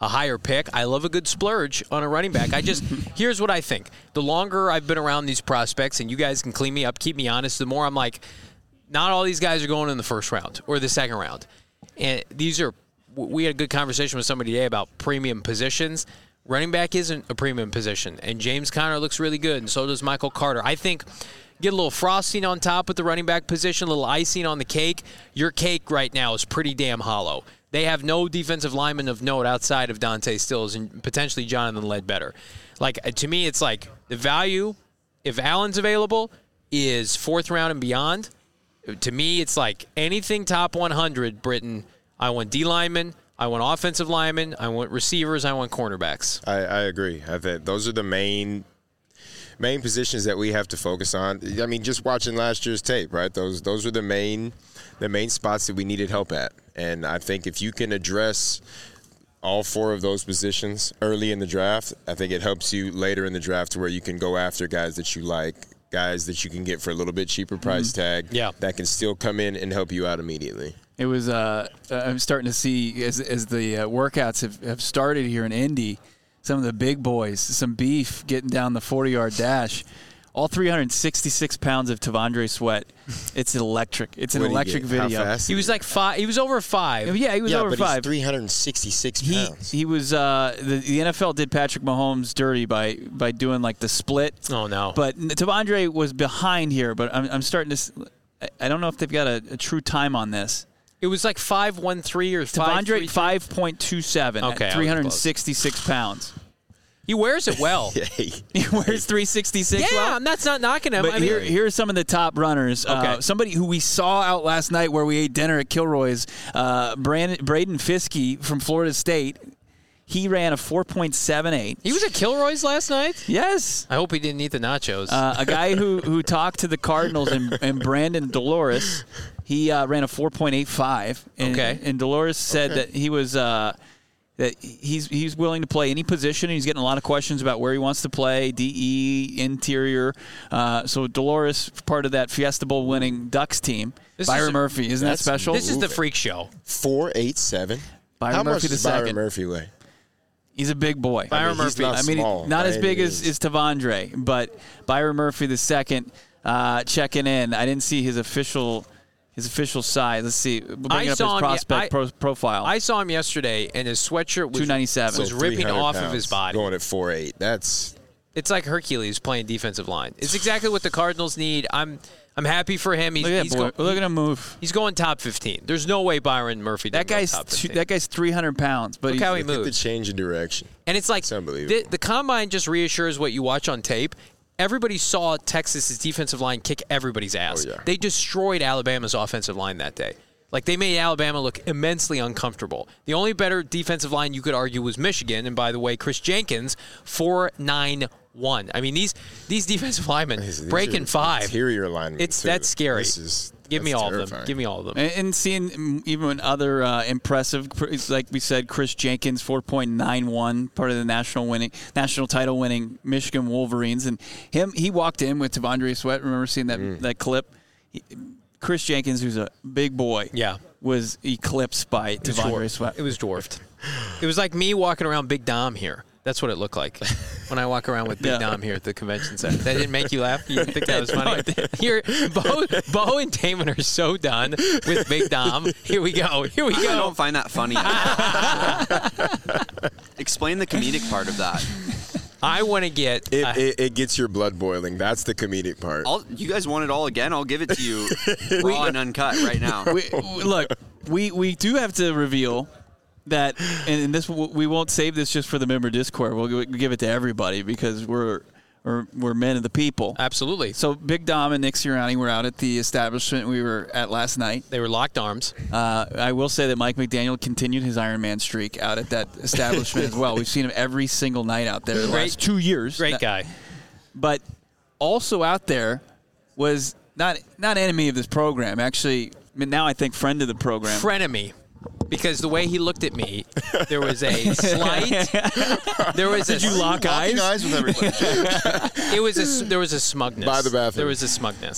a higher pick. I love a good splurge on a running back. Here's what I think. The longer I've been around these prospects, and you guys can clean me up, keep me honest, the more I'm like, not all these guys are going in the first round or the second round. And we had a good conversation with somebody today about premium positions. Running back isn't a premium position, and James Conner looks really good, and so does Michael Carter. I think get a little frosting on top with the running back position, a little icing on the cake. Your cake right now is pretty damn hollow. They have no defensive lineman of note outside of Dante Stills and potentially Jonathan Ledbetter. Like, to me, it's like the value, if Allen's available, is fourth round and beyond. To me, it's like anything top 100, Britton. I want D linemen, I want offensive linemen, I want receivers, I want cornerbacks. I agree. I think those are the main positions that we have to focus on. I mean, just watching last year's tape, right? Those are the main spots that we needed help at. And I think if you can address all four of those positions early in the draft, I think it helps you later in the draft to where you can go after guys that you like, guys that you can get for a little bit cheaper price tag that can still come in and help you out immediately. It was I'm starting to see as the workouts have started here in Indy, some of the big boys, some beef getting down the 40-yard dash. All 366 pounds of Tavondre Sweat. It's electric. It's an electric video. How fast? He was like 5. He was over 5. Yeah, he was over 5. He's 366 pounds. He was the NFL did Patrick Mahomes dirty by doing like the split. Oh no! But Tavondre was behind here. But I'm starting to. I don't know if they've got a true time on this. It was like 5'13" or 5'3". Tavondre 5.27 okay, at 366 pounds. He wears it well. He wears 366 well? Yeah, that's not knocking him. But here are some of the top runners. Okay. Somebody who we saw out last night where we ate dinner at Kilroy's, Braden Fiske from Florida State. He ran a 4.78. He was at Kilroy's last night? Yes. I hope he didn't eat the nachos. A guy who talked to the Cardinals and Brandon Dolores, he ran a 4.85. Okay. And Dolores said that he was that he's willing to play any position. He's getting a lot of questions about where he wants to play, DE, interior. So Dolores, part of that Fiesta Bowl winning Ducks team. Byron Murphy, isn't that special? This is the freak show. 4'8'7". Byron How Murphy much the does second. Byron Murphy weigh? He's a big boy. Byron Murphy. Not as big as Tavondre, but Byron Murphy the second checking in. I didn't see his official size. Let's see. We'll bring up his prospect profile. I saw him yesterday, and his sweatshirt was 297. was ripping off of his body. Going at 4'8". It's like Hercules playing defensive line. It's exactly what the Cardinals need. I'm happy for him. Look at him move. He's going top 15. There's no way Byron Murphy didn't go top 15. That guy's 300 pounds. But look how he Look at moves. the change in direction. And it's like It's unbelievable. the combine just reassures what you watch on tape. Everybody saw Texas's defensive line kick everybody's ass. Oh, yeah. They destroyed Alabama's offensive line that day. Like, they made Alabama look immensely uncomfortable. The only better defensive line you could argue was Michigan. And by the way, Chris Jenkins, 4.91. I mean, these defensive linemen breaking 5. Interior linemen. That's scary. Give me all terrifying. of them. Give me all of them. And seeing even other impressive, like we said, Chris Jenkins, 4.91, part of the national title winning Michigan Wolverines, and he walked in with Tavondre Sweat. Remember seeing that clip? Chris Jenkins, who's a big boy, was eclipsed by Tavondre Sweat. It was dwarfed. It was like me walking around Big Dom here. That's what it looked like when I walk around with Big Dom here at the convention center. That didn't make you laugh? You didn't think that was funny? Here, Bo and Damon are so done with Big Dom. Here we go. I don't find that funny. Explain the comedic part of that. I want to get... It gets your blood boiling. That's the comedic part. You guys want it all again? I'll give it to you raw and uncut right now. We do have to reveal that, and this we won't save this just for the member Discord. We'll give it to everybody because we're men of the people. Absolutely. So Big Dom and Nick Sirianni were out at the establishment we were at last night. They were locked arms. I will say that Mike McDaniel continued his Iron Man streak out at that establishment as well. We've seen him every single night out there the last 2 years. Great guy. But also out there was not enemy of this program. Actually, now I think friend of the program. Frenemy. Because the way he looked at me, there was a slight. Did you lock eyes? Locking eyes with everybody. There was a smugness. By the bathroom. There was a smugness.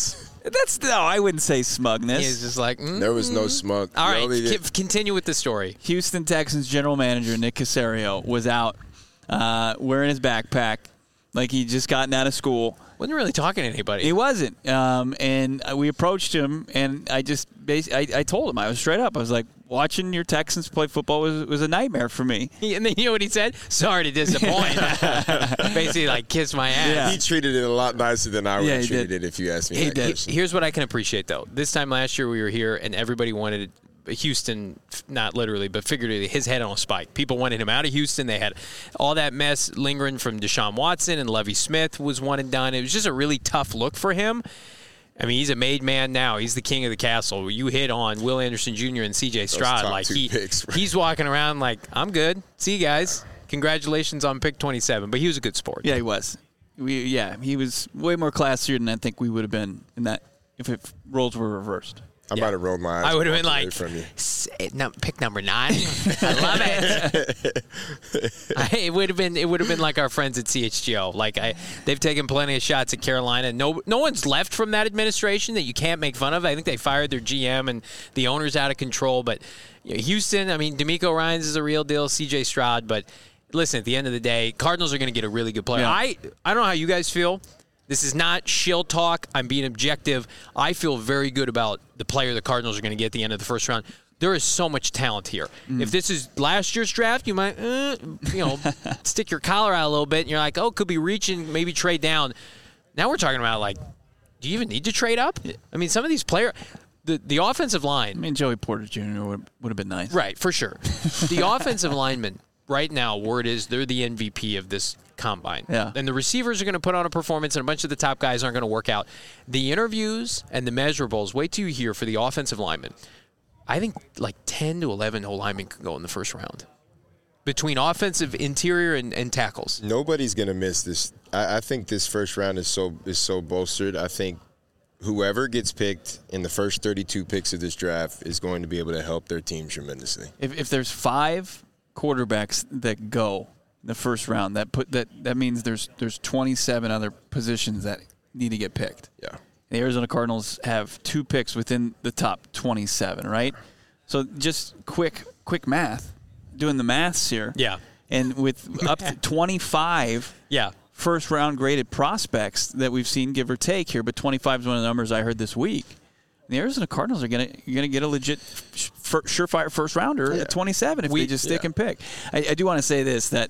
I wouldn't say smugness. He's just like, There was no smug. All right, Only did- continue with the story. Houston Texans general manager Nick Caserio was out wearing his backpack like he'd just gotten out of school. Wasn't really talking to anybody. He wasn't. And we approached him, and I just I told him, I was straight up. I was like, watching your Texans play football was a nightmare for me. And then you know what he said? Sorry to disappoint. Basically, like, kiss my ass. Yeah. He treated it a lot nicer than I would have he treated did. it if you asked me that question. Here's what I can appreciate, though. This time last year, we were here, and everybody wanted Houston, not literally, but figuratively, his head on a spike. People wanted him out of Houston. They had all that mess lingering from Deshaun Watson, and Lovie Smith was one and done. It was just a really tough look for him. I mean, he's a made man now. He's the king of the castle. You hit on Will Anderson Jr. and C.J. Stroud. top Like two picks, right? he's walking around like, I'm good. See you guys. Congratulations on pick 27. But he was a good sport. Yeah, he was. He was way more classier than I think we would have been in that if roles were reversed. I might have rolled my eyes. I would have been away like, from you. pick number 9. I love it. It would have been like our friends at CHGO. Like they've taken plenty of shots at Carolina. No one's left from that administration that you can't make fun of. I think they fired their GM and the owner's out of control. But Houston, I mean, DeMeco Ryans is a real deal. CJ Stroud, but listen, at the end of the day, Cardinals are going to get a really good player. Yeah. I don't know how you guys feel. This is not shill talk. I'm being objective. I feel very good about the player the Cardinals are going to get at the end of the first round. There is so much talent here. If this is last year's draft, you might, stick your collar out a little bit, and you're like, could be reaching, maybe trade down. Now we're talking about, like, do you even need to trade up? I mean, some of these players, the offensive line. I mean, Joey Porter Jr. would have been nice. Right, for sure. The offensive linemen, right now, word is they're the MVP of this combine. Yeah. And the receivers are going to put on a performance, and a bunch of the top guys aren't going to work out. The interviews and the measurables, wait till you hear for the offensive linemen. I think like 10 to 11 whole linemen could go in the first round between offensive, interior, and tackles. Nobody's going to miss this. I think this first round is so bolstered. I think whoever gets picked in the first 32 picks of this draft is going to be able to help their team tremendously. If there's 5 quarterbacks that go in the first round, that means there's 27 other positions that need to get picked. Yeah. The Arizona Cardinals have 2 picks within the top 27, right? So just quick math, doing the maths here. Yeah. And with up to 25 first-round graded prospects that we've seen, give or take here, but 25 is one of the numbers I heard this week. The Arizona Cardinals are going to get a legit surefire first-rounder at 27 if they just stick and pick. I do want to say this, that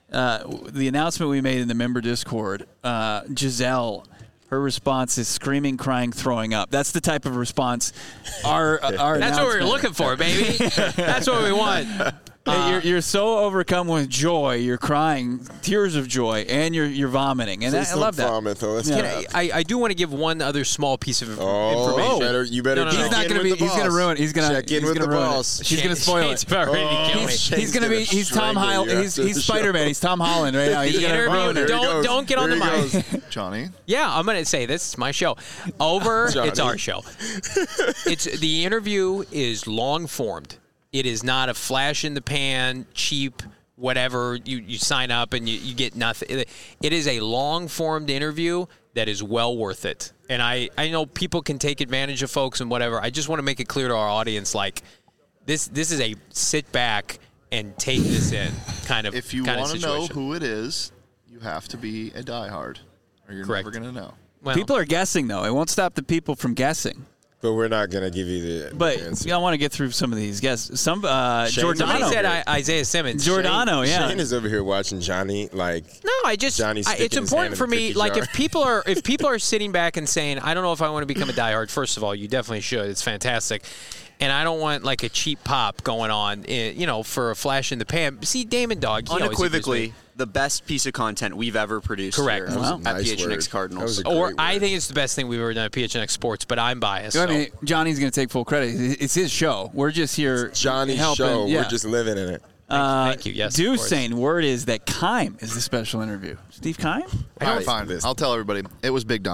the announcement we made in the member Discord, Giselle, her response is screaming, crying, throwing up. That's the type of response our That's what we're looking for, baby. That's what we want. You're so overcome with joy, you're crying, tears of joy, and you're vomiting, and I love that. Vomit, though. I do want to give one other small piece of information. You better. No. He's not going to be. He's going to ruin it. He's going to check in with the boss. He's going to spoil it. He's going to be. He's Tom Holland. He's Spider-Man. He's Tom Holland right now. He's going to ruin it. Don't get on the mic, Johnny. Yeah, I'm going to say this. It's my show. Over. Johnny. It's our show. It's the interview is long formed. It is not a flash in the pan, cheap, whatever. You sign up and you get nothing. It is a long-formed interview that is well worth it. And I know people can take advantage of folks and whatever. I just want to make it clear to our audience, like, this is a sit back and take this in kind of If you want to know who it is, you have to be a diehard, or you're Correct. never going to know. Well, People are guessing, though. It won't stop the people from guessing. But we're not going to give you the But answer. I want to get through some of these guesses. somebody Giordano. said Isaiah Simmons. Giordano, yeah. Shane is over here watching Johnny like. No, Johnny's it's sticking his important hand in for the me. cookie Like jar. if people are sitting back and saying, I don't know if I want to become a diehard. First of all, you definitely should. It's fantastic. And I don't want like a cheap pop going on, for a flash in the pan. See, Damon Dog, he always Unequivocally, agrees the best piece of content we've ever produced Correct. here Wow. at Nice PHNX word. Cardinals. That was a or great I word. think it's the best thing we've ever done at PHNX Sports, but I'm biased. I mean, Johnny's going to take full credit. It's his show. We're just here Johnny's helping. show. Yeah. We're just living in it. Thank you. Yes, of Deuce course. saying word is that Keim is the special interview. Steve Keim? Fine. I'll tell everybody. It was Big Dom.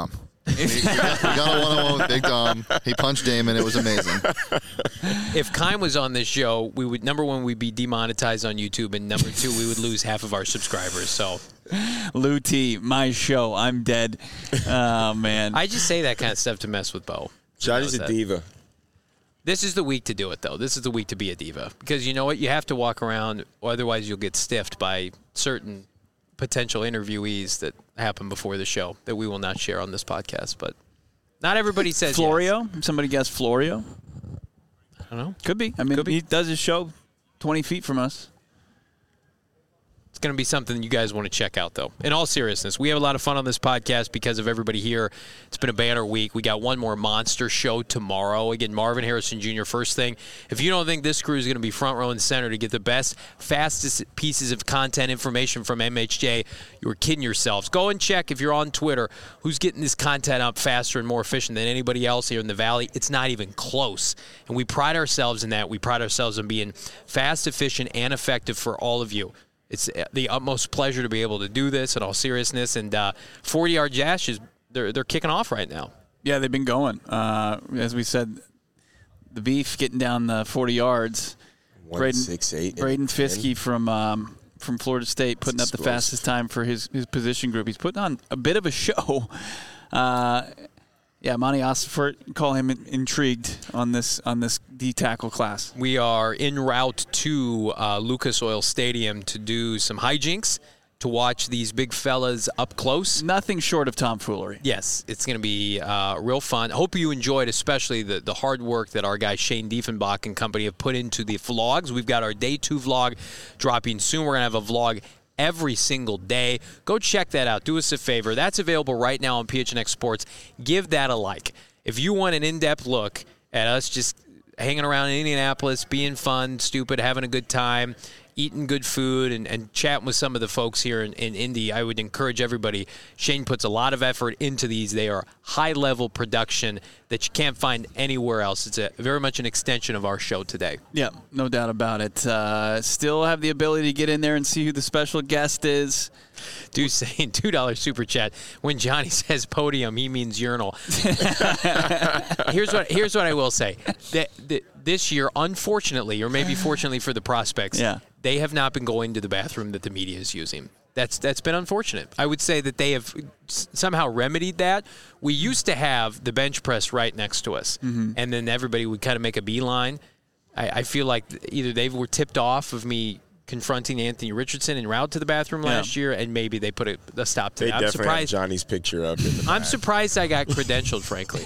We got a one-on-one with Big Dom. He punched Damon. It was amazing. If Kime was on this show, we would, number one, we'd be demonetized on YouTube, and number two, we would lose half of our subscribers. So, Lou T, my show. I'm dead. Oh, man. I just say that kind of stuff to mess with Bo. Johnny's a diva. This is the week to do it, though. This is the week to be a diva. Because you know what? You have to walk around, or otherwise you'll get stiffed by certain potential interviewees that happen before the show that we will not share on this podcast. But not everybody says Florio? yes. Somebody guessed Florio? I don't know. Could be. I mean, he does his show 20 feet from us. It's going to be something you guys want to check out, though. In all seriousness, we have a lot of fun on this podcast because of everybody here. It's been a banner week. We got one more monster show tomorrow. Again, Marvin Harrison Jr., first thing. If you don't think this crew is going to be front row and center to get the best, fastest pieces of content information from MHJ, you're kidding yourselves. Go and check, if you're on Twitter, who's getting this content up faster and more efficient than anybody else here in the Valley. It's not even close. And we pride ourselves in that. We pride ourselves in being fast, efficient, and effective for all of you. It's the utmost pleasure to be able to do this in all seriousness. And 40-yard dashes, they're kicking off right now. Yeah, they've been going. As we said, the beef getting down the 40 yards. 168. Braden Fiske from Florida State putting up the fastest time for his position group. He's putting on a bit of a show. Yeah, Monty Osfort, call him intrigued on this D-tackle class. We are en route to Lucas Oil Stadium to do some hijinks, to watch these big fellas up close. Nothing short of tomfoolery. Yes, it's going to be real fun. I hope you enjoyed especially the hard work that our guy Shane Diefenbach and company have put into the vlogs. We've got our Day 2 vlog dropping soon. We're going to have a vlog every single day. Go check that out. Do us a favor. That's available right now on PHNX Sports. Give that a like. If you want an in-depth look at us just hanging around in Indianapolis, being fun, stupid, having a good time, eating good food, and chatting with some of the folks here in Indy, I would encourage everybody. Shane puts a lot of effort into these. They are high-level production that you can't find anywhere else. It's very much an extension of our show today. Yeah, no doubt about it. Still have the ability to get in there and see who the special guest is. Dude saying $2 super chat. When Johnny says podium, he means urinal. Here's what I will say. This year, unfortunately, or maybe fortunately for the prospects, they have not been going to the bathroom that the media is using. That's been unfortunate. I would say that they have somehow remedied that. We used to have the bench press right next to us, and then everybody would kind of make a beeline. I feel like either they were tipped off of me confronting Anthony Richardson en route to the bathroom last year, and maybe they put a stop to that. I'm definitely have Johnny's picture up in the I'm surprised I got credentialed, frankly.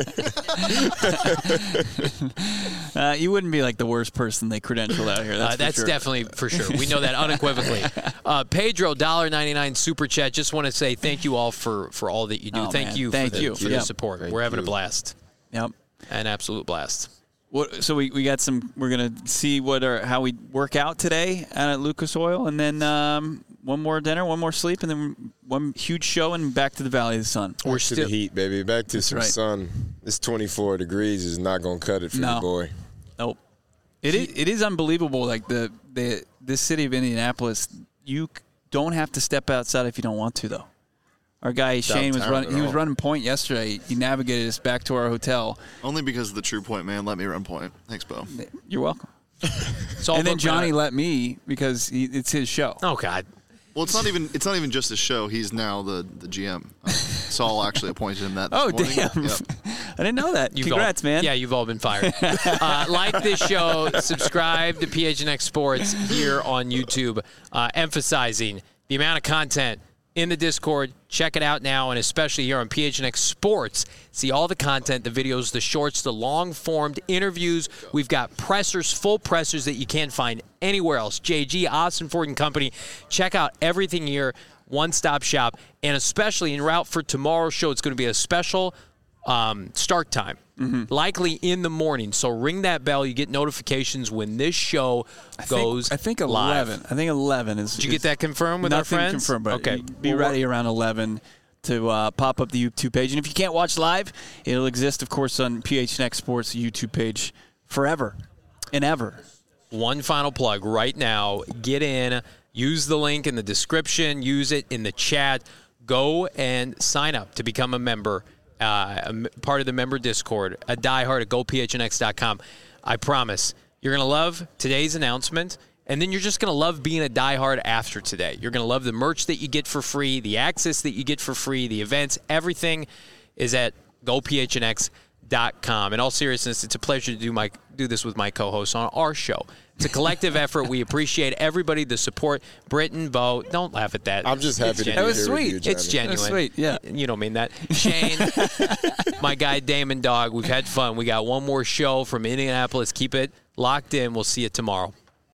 You wouldn't be like the worst person they credentialed out here. That's sure. Definitely for sure. We know that unequivocally. Pedro, $1.99 super chat. Just want to say thank you all for all that you do. Thank you for the support. We're having a blast. Yep. An absolute blast. So we got some. We're gonna see how we work out today at Lucas Oil, and then one more dinner, one more sleep, and then one huge show, and back to the Valley of the Sun. We're still to the heat, baby. Back to some sun. This 24 degrees is not gonna cut it for the boy. Nope. It is unbelievable. Like this city of Indianapolis, you don't have to step outside if you don't want to, though. Our guy Shane was running. He was running point yesterday. He navigated us back to our hotel. Only because the True Point man let me run point. Thanks, Bo. You're welcome. And then Johnny let me because it's his show. Oh God. Well, it's not even just his show. He's now the GM. Saul actually appointed him that. This morning. Damn! Yep. I didn't know that. Congrats, man. Yeah, you've all been fired. Like this show, subscribe to PHNX Sports here on YouTube, emphasizing the amount of content in the Discord. Check it out now, and especially here on PHNX Sports. See all the content, the videos, the shorts, the long-formed interviews. We've got pressers, full pressers that you can't find anywhere else. JG, Austin Ford and Company. Check out everything here, one-stop shop, and especially en route for tomorrow's show, it's going to be a special start time. Likely in the morning. So ring that bell. You get notifications when this show goes I think 11. Live. I think 11 is. Did you get that confirmed with our friends? Confirmed, but okay. Be ready around 11 to pop up the YouTube page. And if you can't watch live, it'll exist, of course, on PHNX Sports YouTube page forever and ever. One final plug right now. Get in. Use the link in the description. Use it in the chat. Go and sign up to become a member part of the member Discord, a diehard at GoPHNX.com. I promise you're going to love today's announcement, and then you're just going to love being a diehard after today. You're going to love the merch that you get for free, the access that you get for free, the events. Everything is at GoPHNX.com. In all seriousness, it's a pleasure to do this with my co-hosts on our show. It's a collective effort. We appreciate everybody, the support. Britton, Bo, don't laugh at that. I'm just happy to be That was here sweet. with you, It's Johnny. genuine. That's sweet, yeah. You don't mean that. Shane, my guy Damon Dog, we've had fun. We got one more show from Indianapolis. Keep it locked in. We'll see you tomorrow.